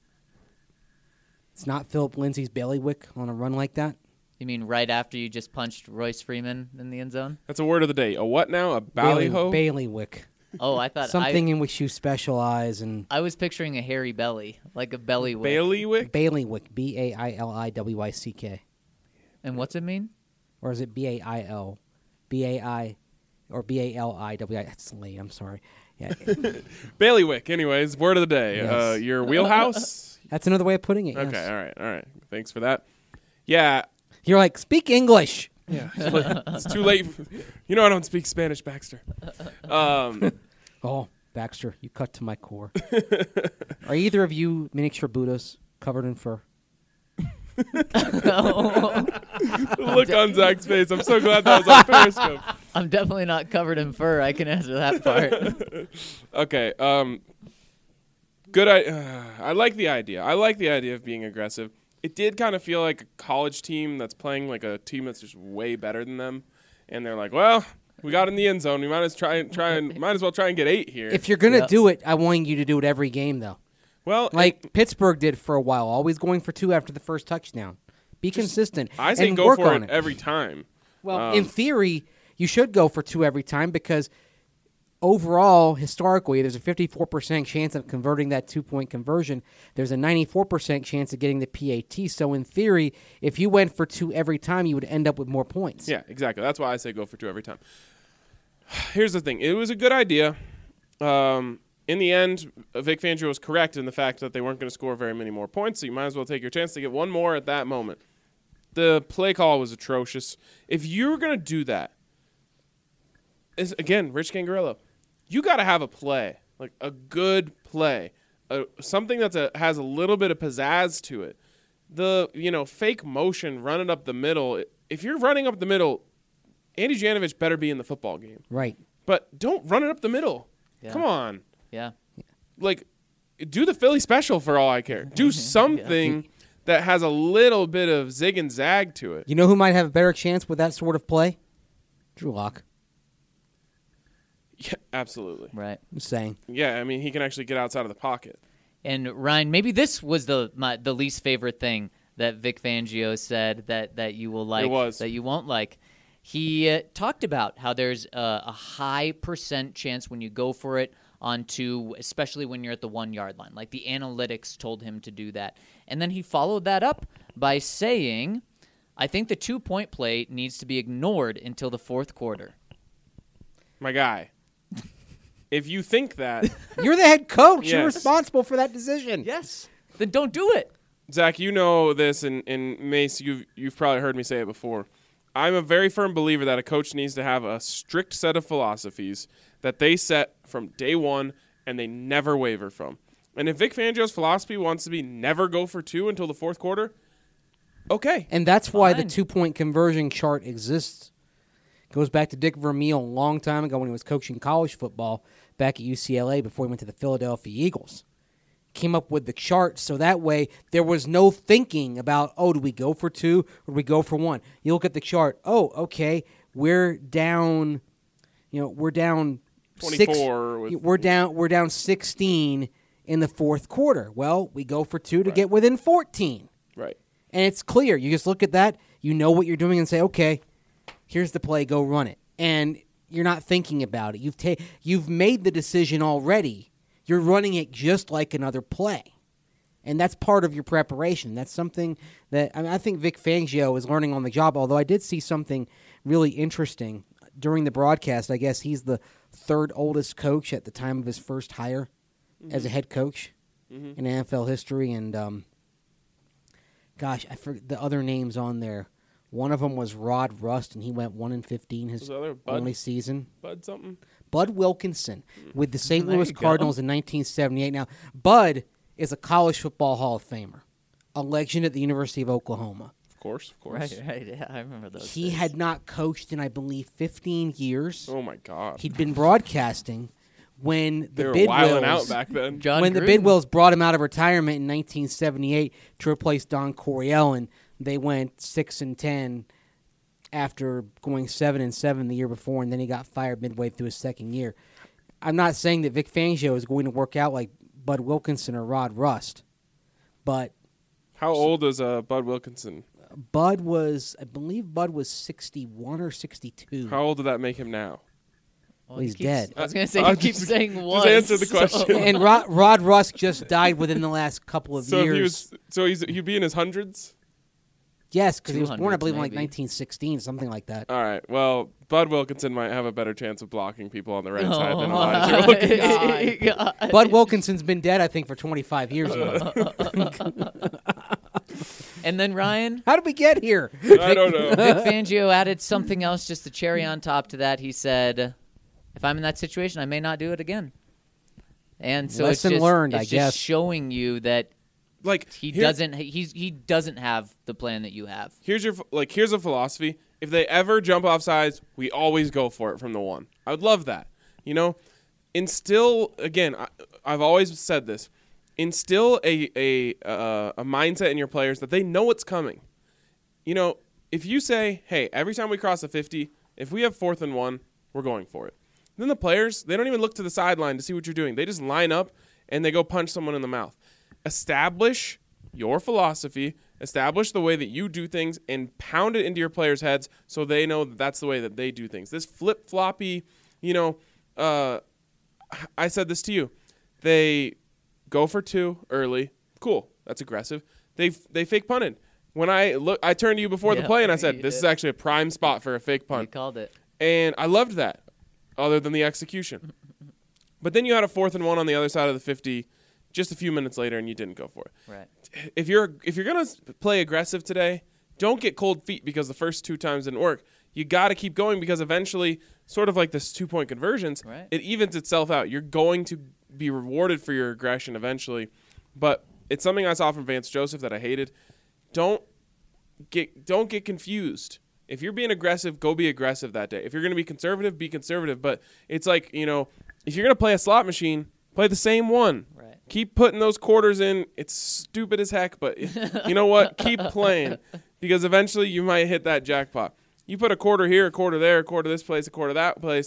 It's not Philip Lindsay's bailiwick on a run like that. You mean right after you just punched Royce Freeman in the end zone? That's a word of the day. A what now? A Bailey- ballyho? Bailiwick. Oh, I thought Something I, in which you specialize in. I was picturing a hairy belly, like a belly wick. Bailiwick? Bailiwick. B A I L I W I C K. And what's it mean? Or is it B A I L? B A I or B A L I W I. That's late. I'm sorry. Yeah. Bailiwick, anyways, word of the day. Yes. Uh, your wheelhouse? That's another way of putting it. Okay, yes. all right, all right. Thanks for that. Yeah, You're like, speak English. yeah. It's too late. You know I don't speak Spanish, Baxter. Um, Oh, Baxter, you cut to my core. Are either of you miniature Buddhas covered in fur? the look on Zach's face. I'm so glad that was on Periscope. I'm definitely not covered in fur. I can answer that part. Okay. Um, good. I uh, I like the idea. I like the idea of being aggressive. It did kind of feel like a college team that's playing like a team that's just way better than them, and they're like, well, we got in the end zone. We might as try and try and might as well try and get eight here. If you're gonna Yep. do it, I want you to do it every game, though. well, Like Pittsburgh did for a while, always going for two after the first touchdown. Be consistent. I say and go work for on it every time. Well, Um, in theory, you should go for two every time because overall, historically, there's a fifty-four percent chance of converting that two-point conversion. There's a ninety-four percent chance of getting the P A T. So in theory, if you went for two every time, you would end up with more points. Yeah, exactly. That's why I say go for two every time. Here's the thing. It was a good idea. Um, in the end, Vic Fangio was correct in the fact that they weren't going to score very many more points, so you might as well take your chance to get one more at that moment. The play call was atrocious. If you're going to do that, is again, Rich Scangarello, you got to have a play, like a good play, uh, something that has a little bit of pizzazz to it. The, you know, fake motion running up the middle, if you're running up the middle, Andy Janovich better be in the football game. Right. But don't run it up the middle. Yeah. Come on. Yeah. Like, do the Philly special for all I care. Do something that has a little bit of zig and zag to it. You know who might have a better chance with that sort of play? Drew Lock. Yeah, absolutely. Right. I'm saying. Yeah, I mean, he can actually get outside of the pocket. And Ryan, maybe this was the my, the least favorite thing that Vic Fangio said that, that you will like, It was. that you won't like. He uh, talked about how there's a, a high percent chance when you go for it on two, especially when you're at the one-yard line. Like the analytics told him to do that. And then he followed that up by saying, I think the two-point play needs to be ignored until the fourth quarter. My guy. If you think that, You're the head coach. You're Yes. responsible for that decision. Yes. Then don't do it. Zach, you know this, and, and Mace, you've, you've probably heard me say it before. I'm a very firm believer that a coach needs to have a strict set of philosophies that they set from day one and they never waver from. And if Vic Fangio's philosophy wants to be never go for two until the fourth quarter, okay. And that's why the Fine. two-point conversion chart exists. Goes back to Dick Vermeil a long time ago when he was coaching college football back at U C L A before he went to the Philadelphia Eagles. Came up with the chart so that way there was no thinking about, oh, do we go for two or do we go for one? You look at the chart, oh, okay, we're down, you know, we're down twenty-four Six, with- we're down we're down sixteen in the fourth quarter. Well, we go for two to get within fourteen. Right. And it's clear. You just look at that, you know what you're doing and say, okay, here's the play, go run it. And you're not thinking about it. You've ta- you've made the decision already. You're running it just like another play. And that's part of your preparation. That's something that I, mean, I think Vic Fangio is learning on the job, although I did see something really interesting during the broadcast. I guess he's the third oldest coach at the time of his first hire mm-hmm. as a head coach mm-hmm. in N F L history. And, um, gosh, I forget the other names on there. One of them was Rod Rust, and he went one and fifteen his only season. Bud something? Bud Wilkinson with the Saint There Louis you go. Cardinals in nineteen seventy-eight. Now, Bud is a college football Hall of Famer, a legend at the University of Oklahoma. Of course, of course. Right, right. Yeah, I remember those. He days. had not coached in, I believe, fifteen years. Oh, my God. He'd been broadcasting when they the were wilding Bidwills out back then. John when Gruden. the Bidwills brought him out of retirement in nineteen seventy-eight to replace Don Coryell, and they went six and ten after going seven and seven the year before, and then he got fired midway through his second year. I'm not saying that Vic Fangio is going to work out like Bud Wilkinson or Rod Rust, but How old is uh, Bud Wilkinson? Bud was, I believe Bud was sixty-one or sixty-two. How old did that make him now? Well, he's he keeps- dead. I was going to say, Uh, he keeps just- saying just once. answer the so- question. And Rod, Rod Rust just died within the last couple of So years. if he was, so he's he'd be in his hundreds. yes, because he was born, I two hundreds believe, in like maybe. nineteen sixteen, something like that. All right. Well, Bud Wilkinson might have a better chance of blocking people on the right side Oh, than my Elijah Wilkinson. God. Bud Wilkinson's been dead, I think, for twenty-five years now. And then Ryan, How did we get here? I don't know. Vic Fangio added something else, just a cherry on top to that. He said, if I'm in that situation, I may not do it again. And so Lesson it's just, learned, it's I just guess. showing you that Like he here- doesn't he's he doesn't have the plan that you have. Here's your like. Here's a philosophy. If they ever jump off sides, we always go for it from the one. I would love that. You know, instill again. I, I've always said this. Instill a a uh, a mindset in your players that they know what's coming. You know, if you say, "Hey, every time we cross a fifty, if we have fourth and one, we're going for it." Then the players, they don't even look to the sideline to see what you're doing. They just line up and they go punch someone in the mouth. Establish your philosophy, establish the way that you do things, and pound it into your players' heads so they know that that's the way that they do things. This flip-floppy, you know, uh, I said this to you. They go for two early. Cool. That's aggressive. They they fake punted. When I look, I turned to you before the Yeah, play and I said, you this did. is actually a prime spot for a fake You punt. called it. And I loved that, other than the execution. But then you had a fourth and one on the other side of the fifty just a few minutes later, and you didn't go for it. Right. If you're if you're gonna play aggressive today, don't get cold feet because the first two times didn't work. You got to keep going because eventually, sort of like this two point conversions, Right. it evens itself out. You're going to be rewarded for your aggression eventually. But it's something I saw from Vance Joseph that I hated. Don't get don't get confused. If you're being aggressive, go be aggressive that day. If you're going to be conservative, be conservative. But it's like, you know, if you're going to play a slot machine, play the same one. Right. Keep putting those quarters in. It's stupid as heck, but you know what? Keep playing because eventually you might hit that jackpot. You put a quarter here, a quarter there, a quarter this place, a quarter that place.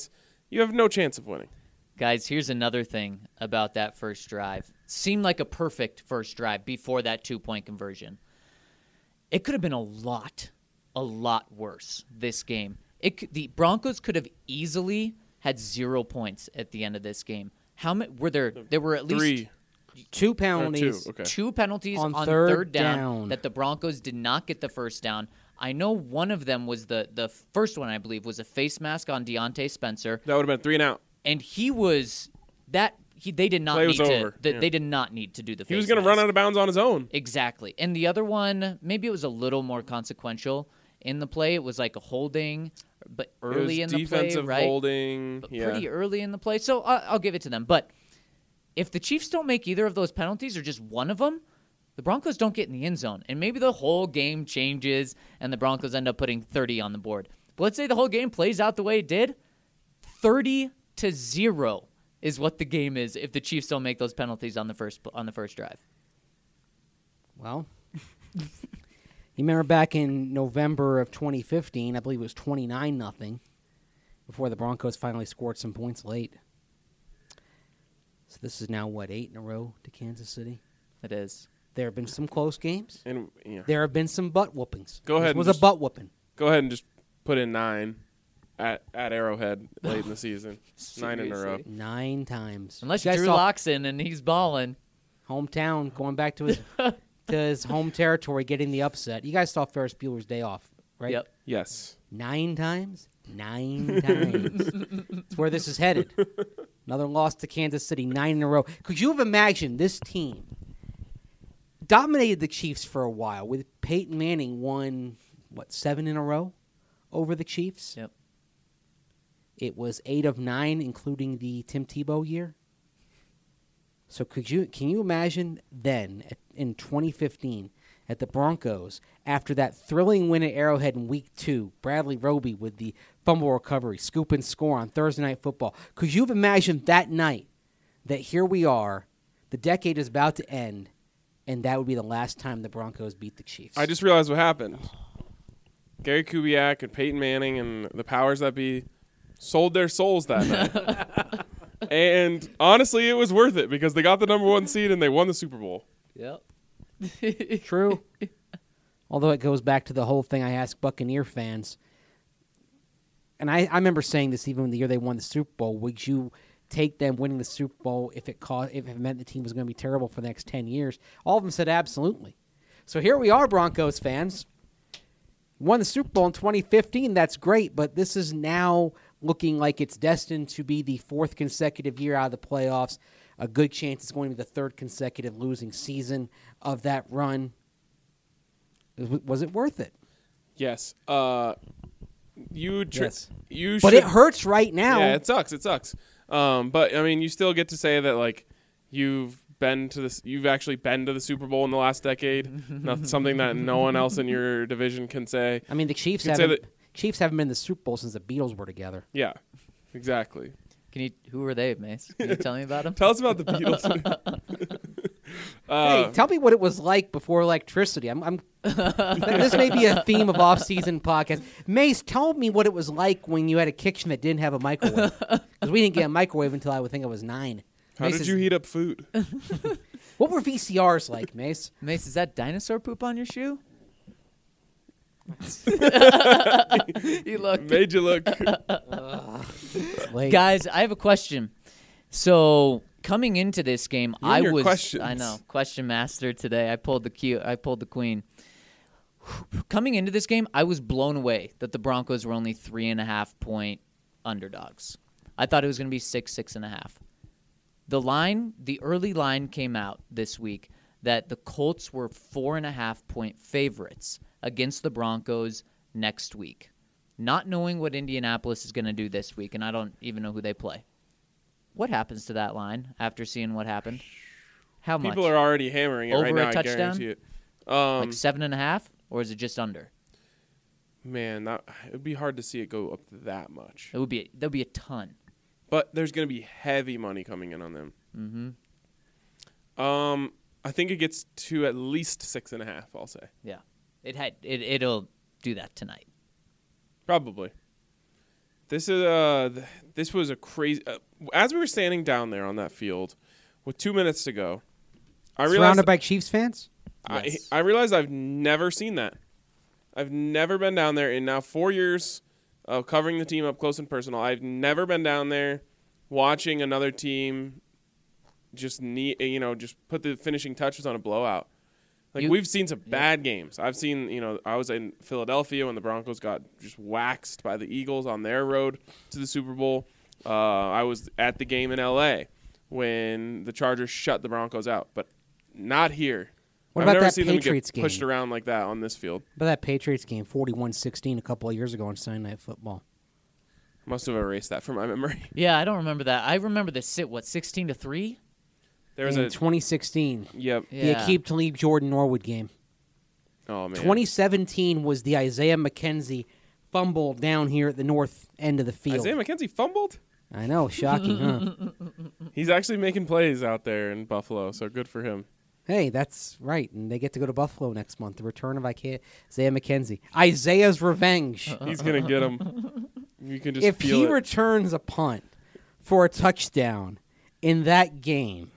you have no chance of winning. Guys, here's another thing about that first drive. Seemed like a perfect first drive before that two-point conversion. It could have been a lot, a lot worse, this game. It could, the Broncos could have easily had zero points at the end of this game. How many were there? There were at least Three. Two Or penalties. two. Okay. two penalties On on, third third, down, down. that the Broncos did not get the first down. I know one of them was the the first one, I believe, was a face mask on Deontay Spencer. That would have been three and out. And he was that he they did not Play need was to over, the, yeah. they did not need to do the face He was going to mask. run out of bounds on his own. Exactly. And the other one, maybe it was a little more consequential in the play. It was like a holding, but early it in was the play, defensive right? holding. But Yeah. pretty early in the play. So I'll, I'll give it to them. But if the Chiefs don't make either of those penalties or just one of them, the Broncos don't get in the end zone. And maybe the whole game changes and the Broncos end up putting thirty on the board. But let's say the whole game plays out the way it did. thirty to zero is what the game is if the Chiefs don't make those penalties on the first on the first drive. Well, you remember back in November of twenty fifteen, I believe it was twenty-nine nothing before the Broncos finally scored some points late. So this is now, what, eight in a row to Kansas City? It is. There have been some close games. And yeah. There have been some butt whoopings. Go ahead This and was just- a butt whooping. Go ahead and just put in nine at at Arrowhead late in the season. Nine in a row. Seriously. Nine times. Unless You guys Drew saw Lock's in and he's balling. hometown, going back to his to his home territory, getting the upset. You guys saw Ferris Bueller's Day Off, right? Yep. Yes. Nine times? Nine times. That's where this is headed. Another loss to Kansas City, nine in a row. Could you have imagined this team dominated the Chiefs for a while with Peyton Manning won, what, seven in a row over the Chiefs? Yep. It was eight of nine, including the Tim Tebow year. So could you can you imagine then at, in twenty fifteen at the Broncos after that thrilling win at Arrowhead in week two, Bradley Roby with the fumble recovery, scoop and score on Thursday Night Football. Could you have imagined that night that here we are, the decade is about to end, and that would be the last time the Broncos beat the Chiefs? I just realized what happened. Gary Kubiak and Peyton Manning and the powers that be sold their souls that night. And honestly, it was worth it because they got the number one seed and they won the Super Bowl. Yep. True. Although it goes back to the whole thing I asked Buccaneer fans. And I, I remember saying this even the year they won the Super Bowl. Would you take them winning the Super Bowl if it caused, if it meant the team was going to be terrible for the next ten years? All of them said absolutely. So here we are, Broncos fans. Won the Super Bowl in twenty fifteen. That's great, but this is now looking like it's destined to be the fourth consecutive year out of the playoffs. A good chance it's going to be the third consecutive losing season of that run. Was it worth it? Yes. Uh, you tr- Yes. you But should, it hurts right now. Yeah, it sucks. It sucks. Um, but I mean, you still get to say that like you've been to this. You've actually been to the Super Bowl in the last decade. Not something that no one else in your division can say. I mean, the Chiefs You could say haven't that- Chiefs haven't been in the Super Bowl since the Beatles were together. Yeah, exactly. Can you? Who were they, Mace? Can you tell me about them? Tell us about the Beatles. uh, Hey, tell me what it was like before electricity. I'm, I'm this may be a theme of off-season podcast. Mace, tell me what it was like when you had a kitchen that didn't have a microwave. Because we didn't get a microwave until I would think I was nine. how Mace did is- you heat up food? What were V C Rs like, Mace? Mace, is that dinosaur poop on your shoe? You look. Made you look. Late. Guys, I have a question. So coming into this game, You I and your was questions. I know question master today. I pulled the key. I pulled the queen. Coming into this game, I was blown away that the Broncos were only three and a half point underdogs. I thought it was going to be six, six and a half. The line, the early line came out this week that the Colts were four and a half point favorites against the Broncos next week. Not knowing what Indianapolis is going to do this week, and I don't even know who they play. What happens to that line after seeing what happened? How much? People are already hammering it Over right a now. I touchdown? guarantee it. Um, like seven and a half, or is it just under? man, that it would be hard to see it go up that much. It would be. There'll be a ton. But there's going to be heavy money coming in on them. Mm-hmm. Um, I think it gets to at least six and a half. I'll say Yeah, it had. It it'll do that tonight. probably. This is uh, th- this was a crazy. Uh, as we were standing down there on that field, with two minutes to go, I realized Surrounded by Chiefs fans? I, Yes. I realized I've never seen that. I've never been down there in now four years of covering the team up close and personal. I've never been down there watching another team just need you know just put the finishing touches on a blowout. Like You- we've seen some bad games. I've seen you know I was in Philadelphia when the Broncos got just waxed by the Eagles on their road to the Super Bowl. Uh, I was at the game in L A when the Chargers shut the Broncos out, but not here. What I've about never that seen Patriots them get pushed game? around like that on this field. But that Patriots game, forty-one sixteen, a couple of years ago on Sunday Night Football. Must have erased that from my memory. Yeah, I don't remember that. I remember the sit, what, sixteen to three? There was in a twenty sixteen, yep. the Yeah. Aqib Talib Jordan Norwood game. Oh man. twenty seventeen was the Isaiah McKenzie fumble down here at the north end of the field. Isaiah McKenzie fumbled. I know, shocking, huh? He's actually making plays out there in Buffalo, so good for him. Hey, that's right, and they get to go to Buffalo next month. The return of Isaiah McKenzie, Isaiah's revenge. He's gonna get him. You can just If feel he it. returns a punt for a touchdown in that game,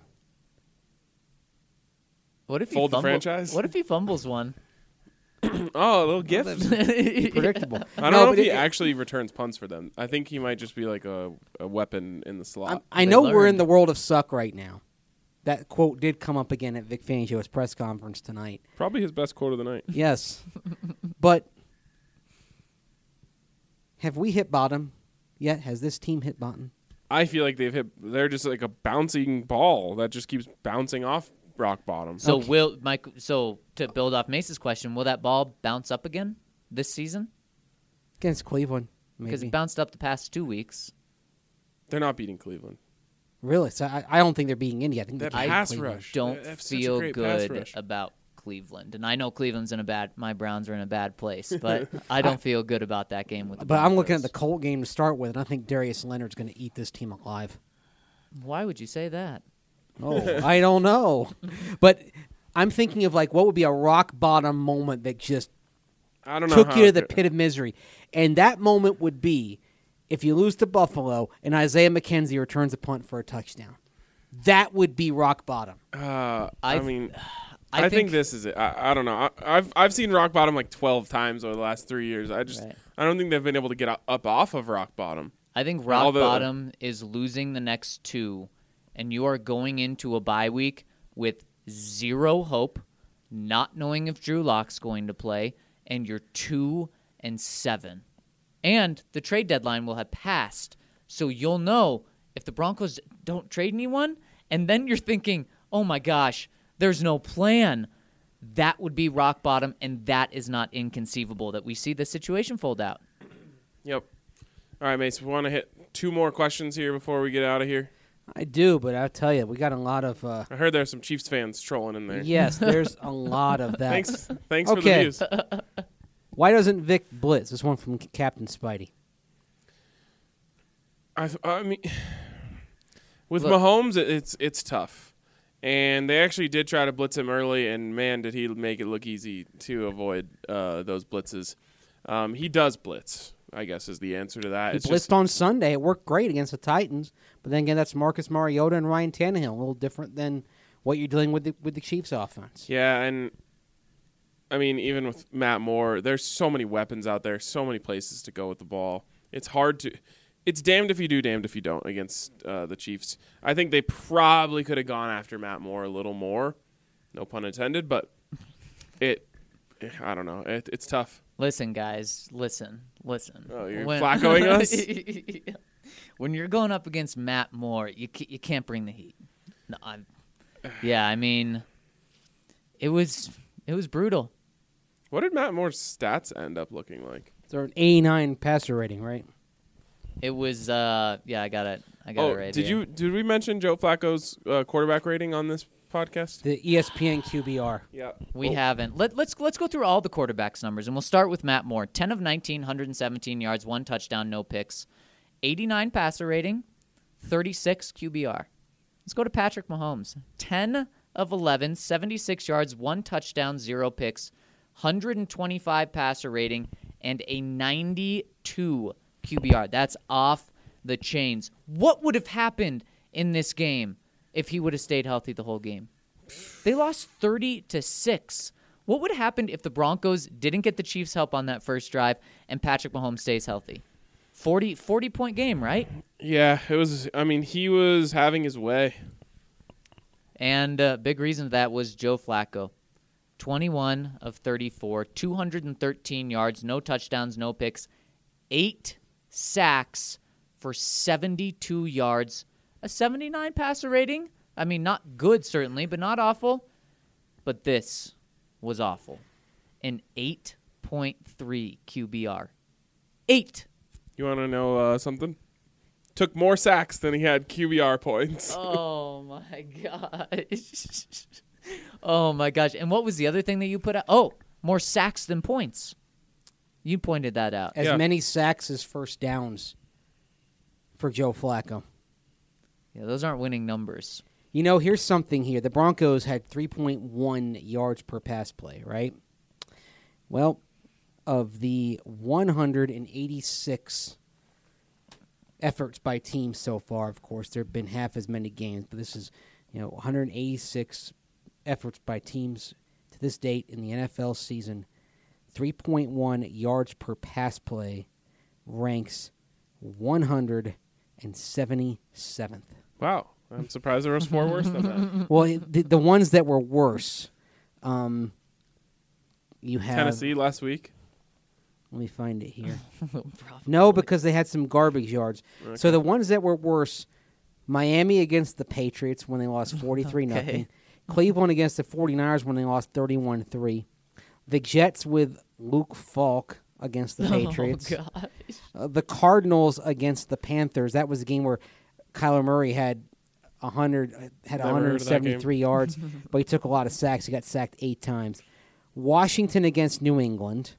What if he Fold the fumble- franchise? What if he fumbles one? oh, a little gift. predictable. I don't No, know but if he it- actually returns punts for them. I think he might just be like a, a weapon in the slot. I'm- I They know we're in learned. the world of suck right now. That quote did come up again at Vic Fangio's press conference tonight. Probably his best quote of the night. Yes. But have we hit bottom yet? Has this team hit bottom? I feel like they've hit. They're just like a bouncing ball that just keeps bouncing off rock bottom. So Okay. will Mike? So to build off Mace's question, will that ball bounce up again this season? Against Cleveland, Because maybe. it bounced up the past two weeks. They're not beating Cleveland. Really? So I, I don't think they're being Indy. I think That they're beating pass Cleveland. rush. Don't They have such a feel great pass good rush. about Cleveland, and I know Cleveland's in a bad. My Browns are in a bad place, but I don't feel good about that game with the. But I'm looking at the Broncos. Colt game to start with, and I think Darius Leonard's going to eat this team alive. Why would you say that? Oh, I don't know. But I'm thinking of like what would be a rock bottom moment that just I don't know. took how you to it the could- pit of misery. And that moment would be if you lose to Buffalo and Isaiah McKenzie returns a punt for a touchdown. That would be rock bottom. Uh, I, I- mean, I I, think, think- this is it. I, I don't know. I, I've I've seen rock bottom like twelve times over the last three years. I just Right. I don't think they've been able to get up, up off of rock bottom. I think All rock the- bottom is losing the next two, and you are going into a bye week with zero hope, not knowing if Drew Lock's going to play, and you're two and seven. And the trade deadline will have passed, so you'll know if the Broncos don't trade anyone, and then you're thinking, oh my gosh, there's no plan. That would be rock bottom, and that is not inconceivable that we see the situation fold out. Yep. All right, mates. We want to hit two more questions here before we get out of here. I do, but I'll tell you, we got a lot of. Uh, I heard there's some Chiefs fans trolling in there. yes, there's a lot of that. Thanks. Thanks for the Okay. views. Why doesn't Vic blitz? This one from Captain Spidey. I, I mean, with Look. Mahomes, it- it's it's tough, and they actually did try to blitz him early, and man, did he make it look easy to avoid uh, those blitzes. Um, he does blitz, I guess, is the answer to that. He It's blitzed just, on Sunday. It worked great against the Titans, but then again, that's Marcus Mariota and Ryan Tannehill. A little different than what you're dealing with the, with the Chiefs' offense. yeah, and I mean, even with Matt Moore, there's so many weapons out there, so many places to go with the ball. It's hard to. It's damned if you do, damned if you don't against uh, the Chiefs. I think they probably could have gone after Matt Moore a little more, no pun intended, but it. I don't know. It, it's tough. Listen, guys, listen, listen. Oh, you're Flaccoing us? When you're going up against Matt Moore, you ca- you can't bring the heat. No, I'm, yeah, I mean, it was it was brutal. What did Matt Moore's stats end up looking like? They're an eighty-nine passer rating, right? It was uh yeah, I got it. I got Oh, it right did here. you did we mention Joe Flacco's uh, quarterback rating on this podcast? The E S P N Q B R. Yeah, We Oh, haven't. Let, let's let's go through all the quarterbacks' numbers, and we'll start with Matt Moore. ten of nineteen, one hundred seventeen yards, one touchdown, no picks. eighty-nine passer rating, thirty-six Q B R. Let's go to Patrick Mahomes. ten of eleven, seventy-six yards, one touchdown, zero picks, one hundred twenty-five passer rating, and a ninety-two Q B R. That's off the chains. What would have happened in this game if he would have stayed healthy the whole game? They lost thirty to six. What would have happened if the Broncos didn't get the Chiefs' help on that first drive and Patrick Mahomes stays healthy? forty, forty point game, right? Yeah, it was. I mean, he was having his way. And a big reason for that was Joe Flacco. twenty-one of thirty-four, two hundred thirteen yards, no touchdowns, no picks, eight sacks for seventy-two yards, a seventy-nine passer rating. I mean, not good, certainly, but not awful. But this was awful. An eight point three Q B R. Eight. You want to know uh, something? Took more sacks than he had Q B R points. Oh, my gosh. Oh, my gosh. And what was the other thing that you put out? Oh, more sacks than points. You pointed that out. As Yeah. many sacks as first downs for Joe Flacco. Yeah, those aren't winning numbers. You know, here's something here. The Broncos had three point one yards per pass play, right? Well, of the one hundred eighty-six efforts by teams so far, of course, there have been half as many games, but this is, you know, one hundred eighty-six efforts by teams to this date in the N F L season. three point one yards per pass play ranks one hundred seventy-seventh. Wow. I'm surprised there was more worse than that. Well, the, the ones that were worse, um, you have Tennessee last week. Let me find it here. No, because they had some garbage yards. Okay. So the ones that were worse, Miami against the Patriots when they lost forty-three nothing. Okay. Cleveland against the 49ers when they lost thirty-one three. The Jets with Luke Falk against the Patriots. Oh, gosh. Uh, the Cardinals against the Panthers. That was a game where Kyler Murray had one hundred had Never heard of that one hundred seventy-three yards, but he took a lot of sacks. He got sacked eight times. Washington against New England.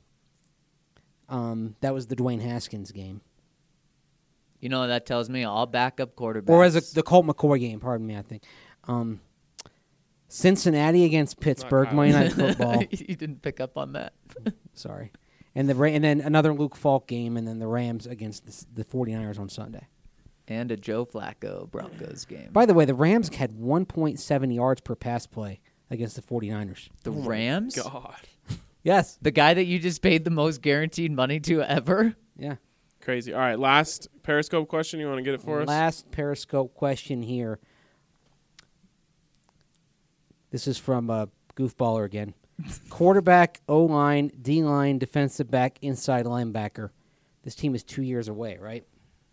Um, that was the Dwayne Haskins game. You know what that tells me? All backup quarterbacks. Or as a, the Colt McCoy game, pardon me, I think. Um, Cincinnati against Pittsburgh, Kyler. Monday Night Football. You didn't pick up on that. Sorry. And the Ra- and then another Luke Falk game, and then the Rams against the, the 49ers on Sunday. And a Joe Flacco Broncos game. By the way, the Rams had one point seven yards per pass play against the 49ers. The Oh my Rams? God. Yes. The guy that you just paid the most guaranteed money to ever? Yeah. Crazy. All right, last Periscope question. You want to get it for us? Last Periscope question here. This is from uh, Goofballer again. Quarterback, O-line, D-line, defensive back, inside linebacker. This team is two years away, right?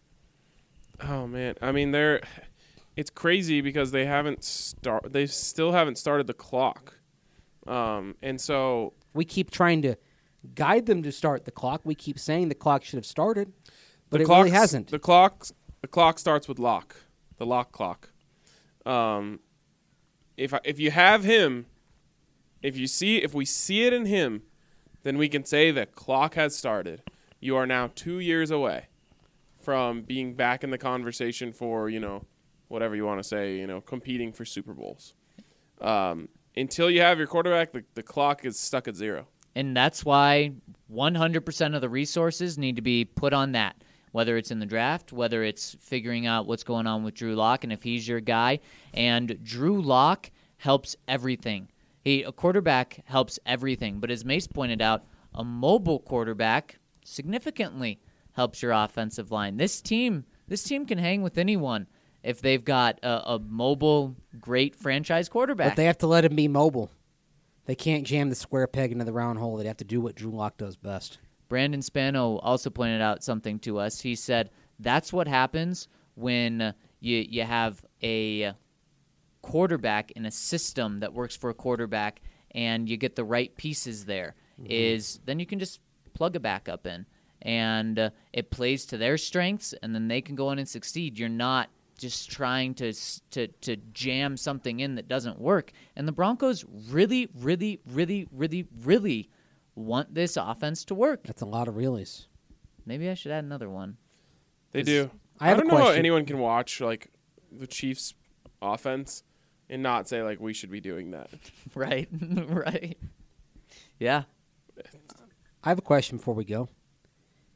Oh man, I mean they're. It's crazy because they haven't start. They still haven't started the clock, um, and so We keep trying to guide them to start the clock. We keep saying the clock should have started, but the it really clock's- hasn't. The clock. The clock starts with lock. The lock clock. Um, if I, if you have him, if you see if we see it in him, then we can say the clock has started. You are now two years away from being back in the conversation for, you know, whatever you want to say, you know, competing for Super Bowls. Um, until you have your quarterback, the, the clock is stuck at zero. And that's why one hundred percent of the resources need to be put on that, whether it's in the draft, whether it's figuring out what's going on with Drew Lock and if he's your guy. And Drew Lock helps everything. He, a quarterback helps everything. But as Mace pointed out, a mobile quarterback significantly helps your offensive line. This team, this team can hang with anyone if they've got a, a mobile, great franchise quarterback. But they have to let him be mobile. They can't jam the square peg into the round hole. They have to do what Drew Lock does best. Brandon Spano also pointed out something to us. He said that's what happens when you you have a quarterback in a system that works for a quarterback and you get the right pieces there. Mm-hmm. Is then you can just plug a backup in and uh, it plays to their strengths and then they can go in and succeed. You're not just trying to to to jam something in that doesn't work. And the Broncos really, really, really, really, really want this offense to work. That's a lot of reallys. Maybe I should add another one. They do. I have don't a know how question. anyone can watch like the Chiefs' offense and not say like we should be doing that. Right, right. Yeah. I have a question before we go.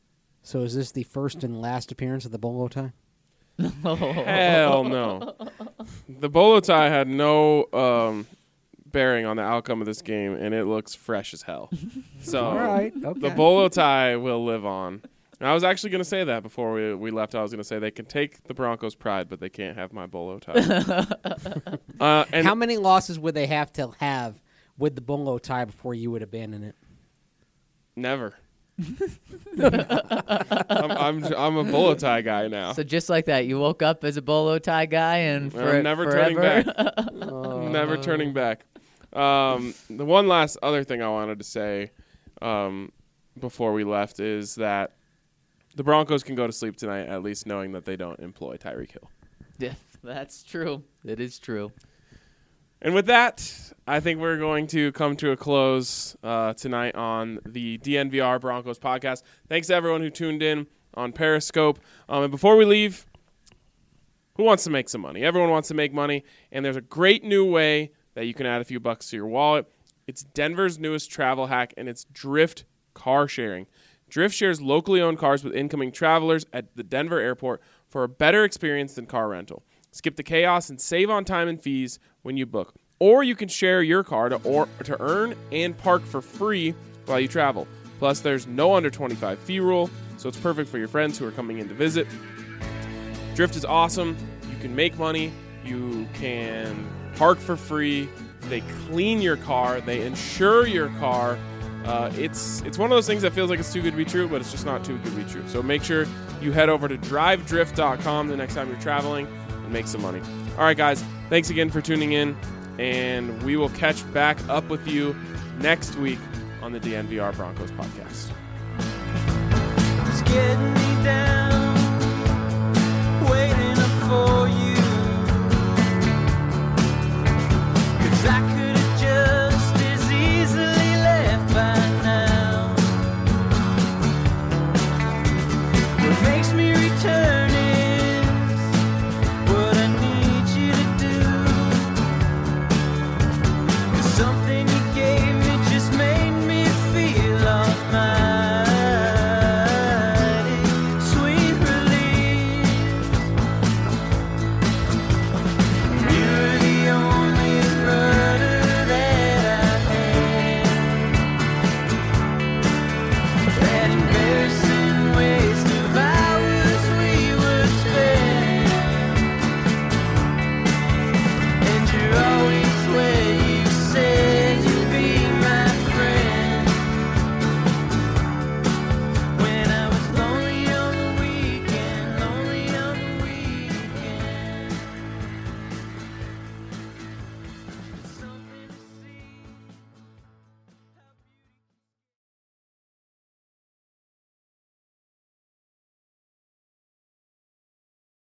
So is this the first and last appearance of the bolo tie? Hell no. The bolo tie had no um, bearing on the outcome of this game, and it looks fresh as hell. So All right, okay. the bolo tie will live on. And I was actually going to say that before we, we left. I was going to say they can take the Broncos' pride, but they can't have my bolo tie. uh, and How many losses would they have to have with the bolo tie before you would abandon it? Never. I'm, I'm I'm a bolo tie guy now. So just like that, you woke up as a bolo tie guy, and for I'm never forever. turning back. Never turning back. Um, the one last other thing I wanted to say um, before we left is that the Broncos can go to sleep tonight, at least knowing that they don't employ Tyreek Hill. Yeah, that's true. It is true. And with that, I think we're going to come to a close uh, tonight on the D N V R Broncos podcast. Thanks to everyone who tuned in on Periscope. Um, and before we leave, who wants to make some money? Everyone wants to make money, and there's a great new way that you can add a few bucks to your wallet. It's Denver's newest travel hack, and it's Drift Car Sharing. Drift shares locally owned cars with incoming travelers at the Denver airport for a better experience than car rental. Skip the chaos and save on time and fees when you book. Or you can share your car to, or, to earn and park for free while you travel. Plus, there's no under twenty-five fee rule, so it's perfect for your friends who are coming in to visit. Drift is awesome. You can make money. You can park for free. They clean your car. They insure your car. Uh, it's it's one of those things that feels like it's too good to be true, but it's just not too good to be true. So make sure you head over to drive drift dot com the next time you're traveling and make some money. All right, guys. Thanks again for tuning in, and we will catch back up with you next week on the D N V R Broncos podcast. It's getting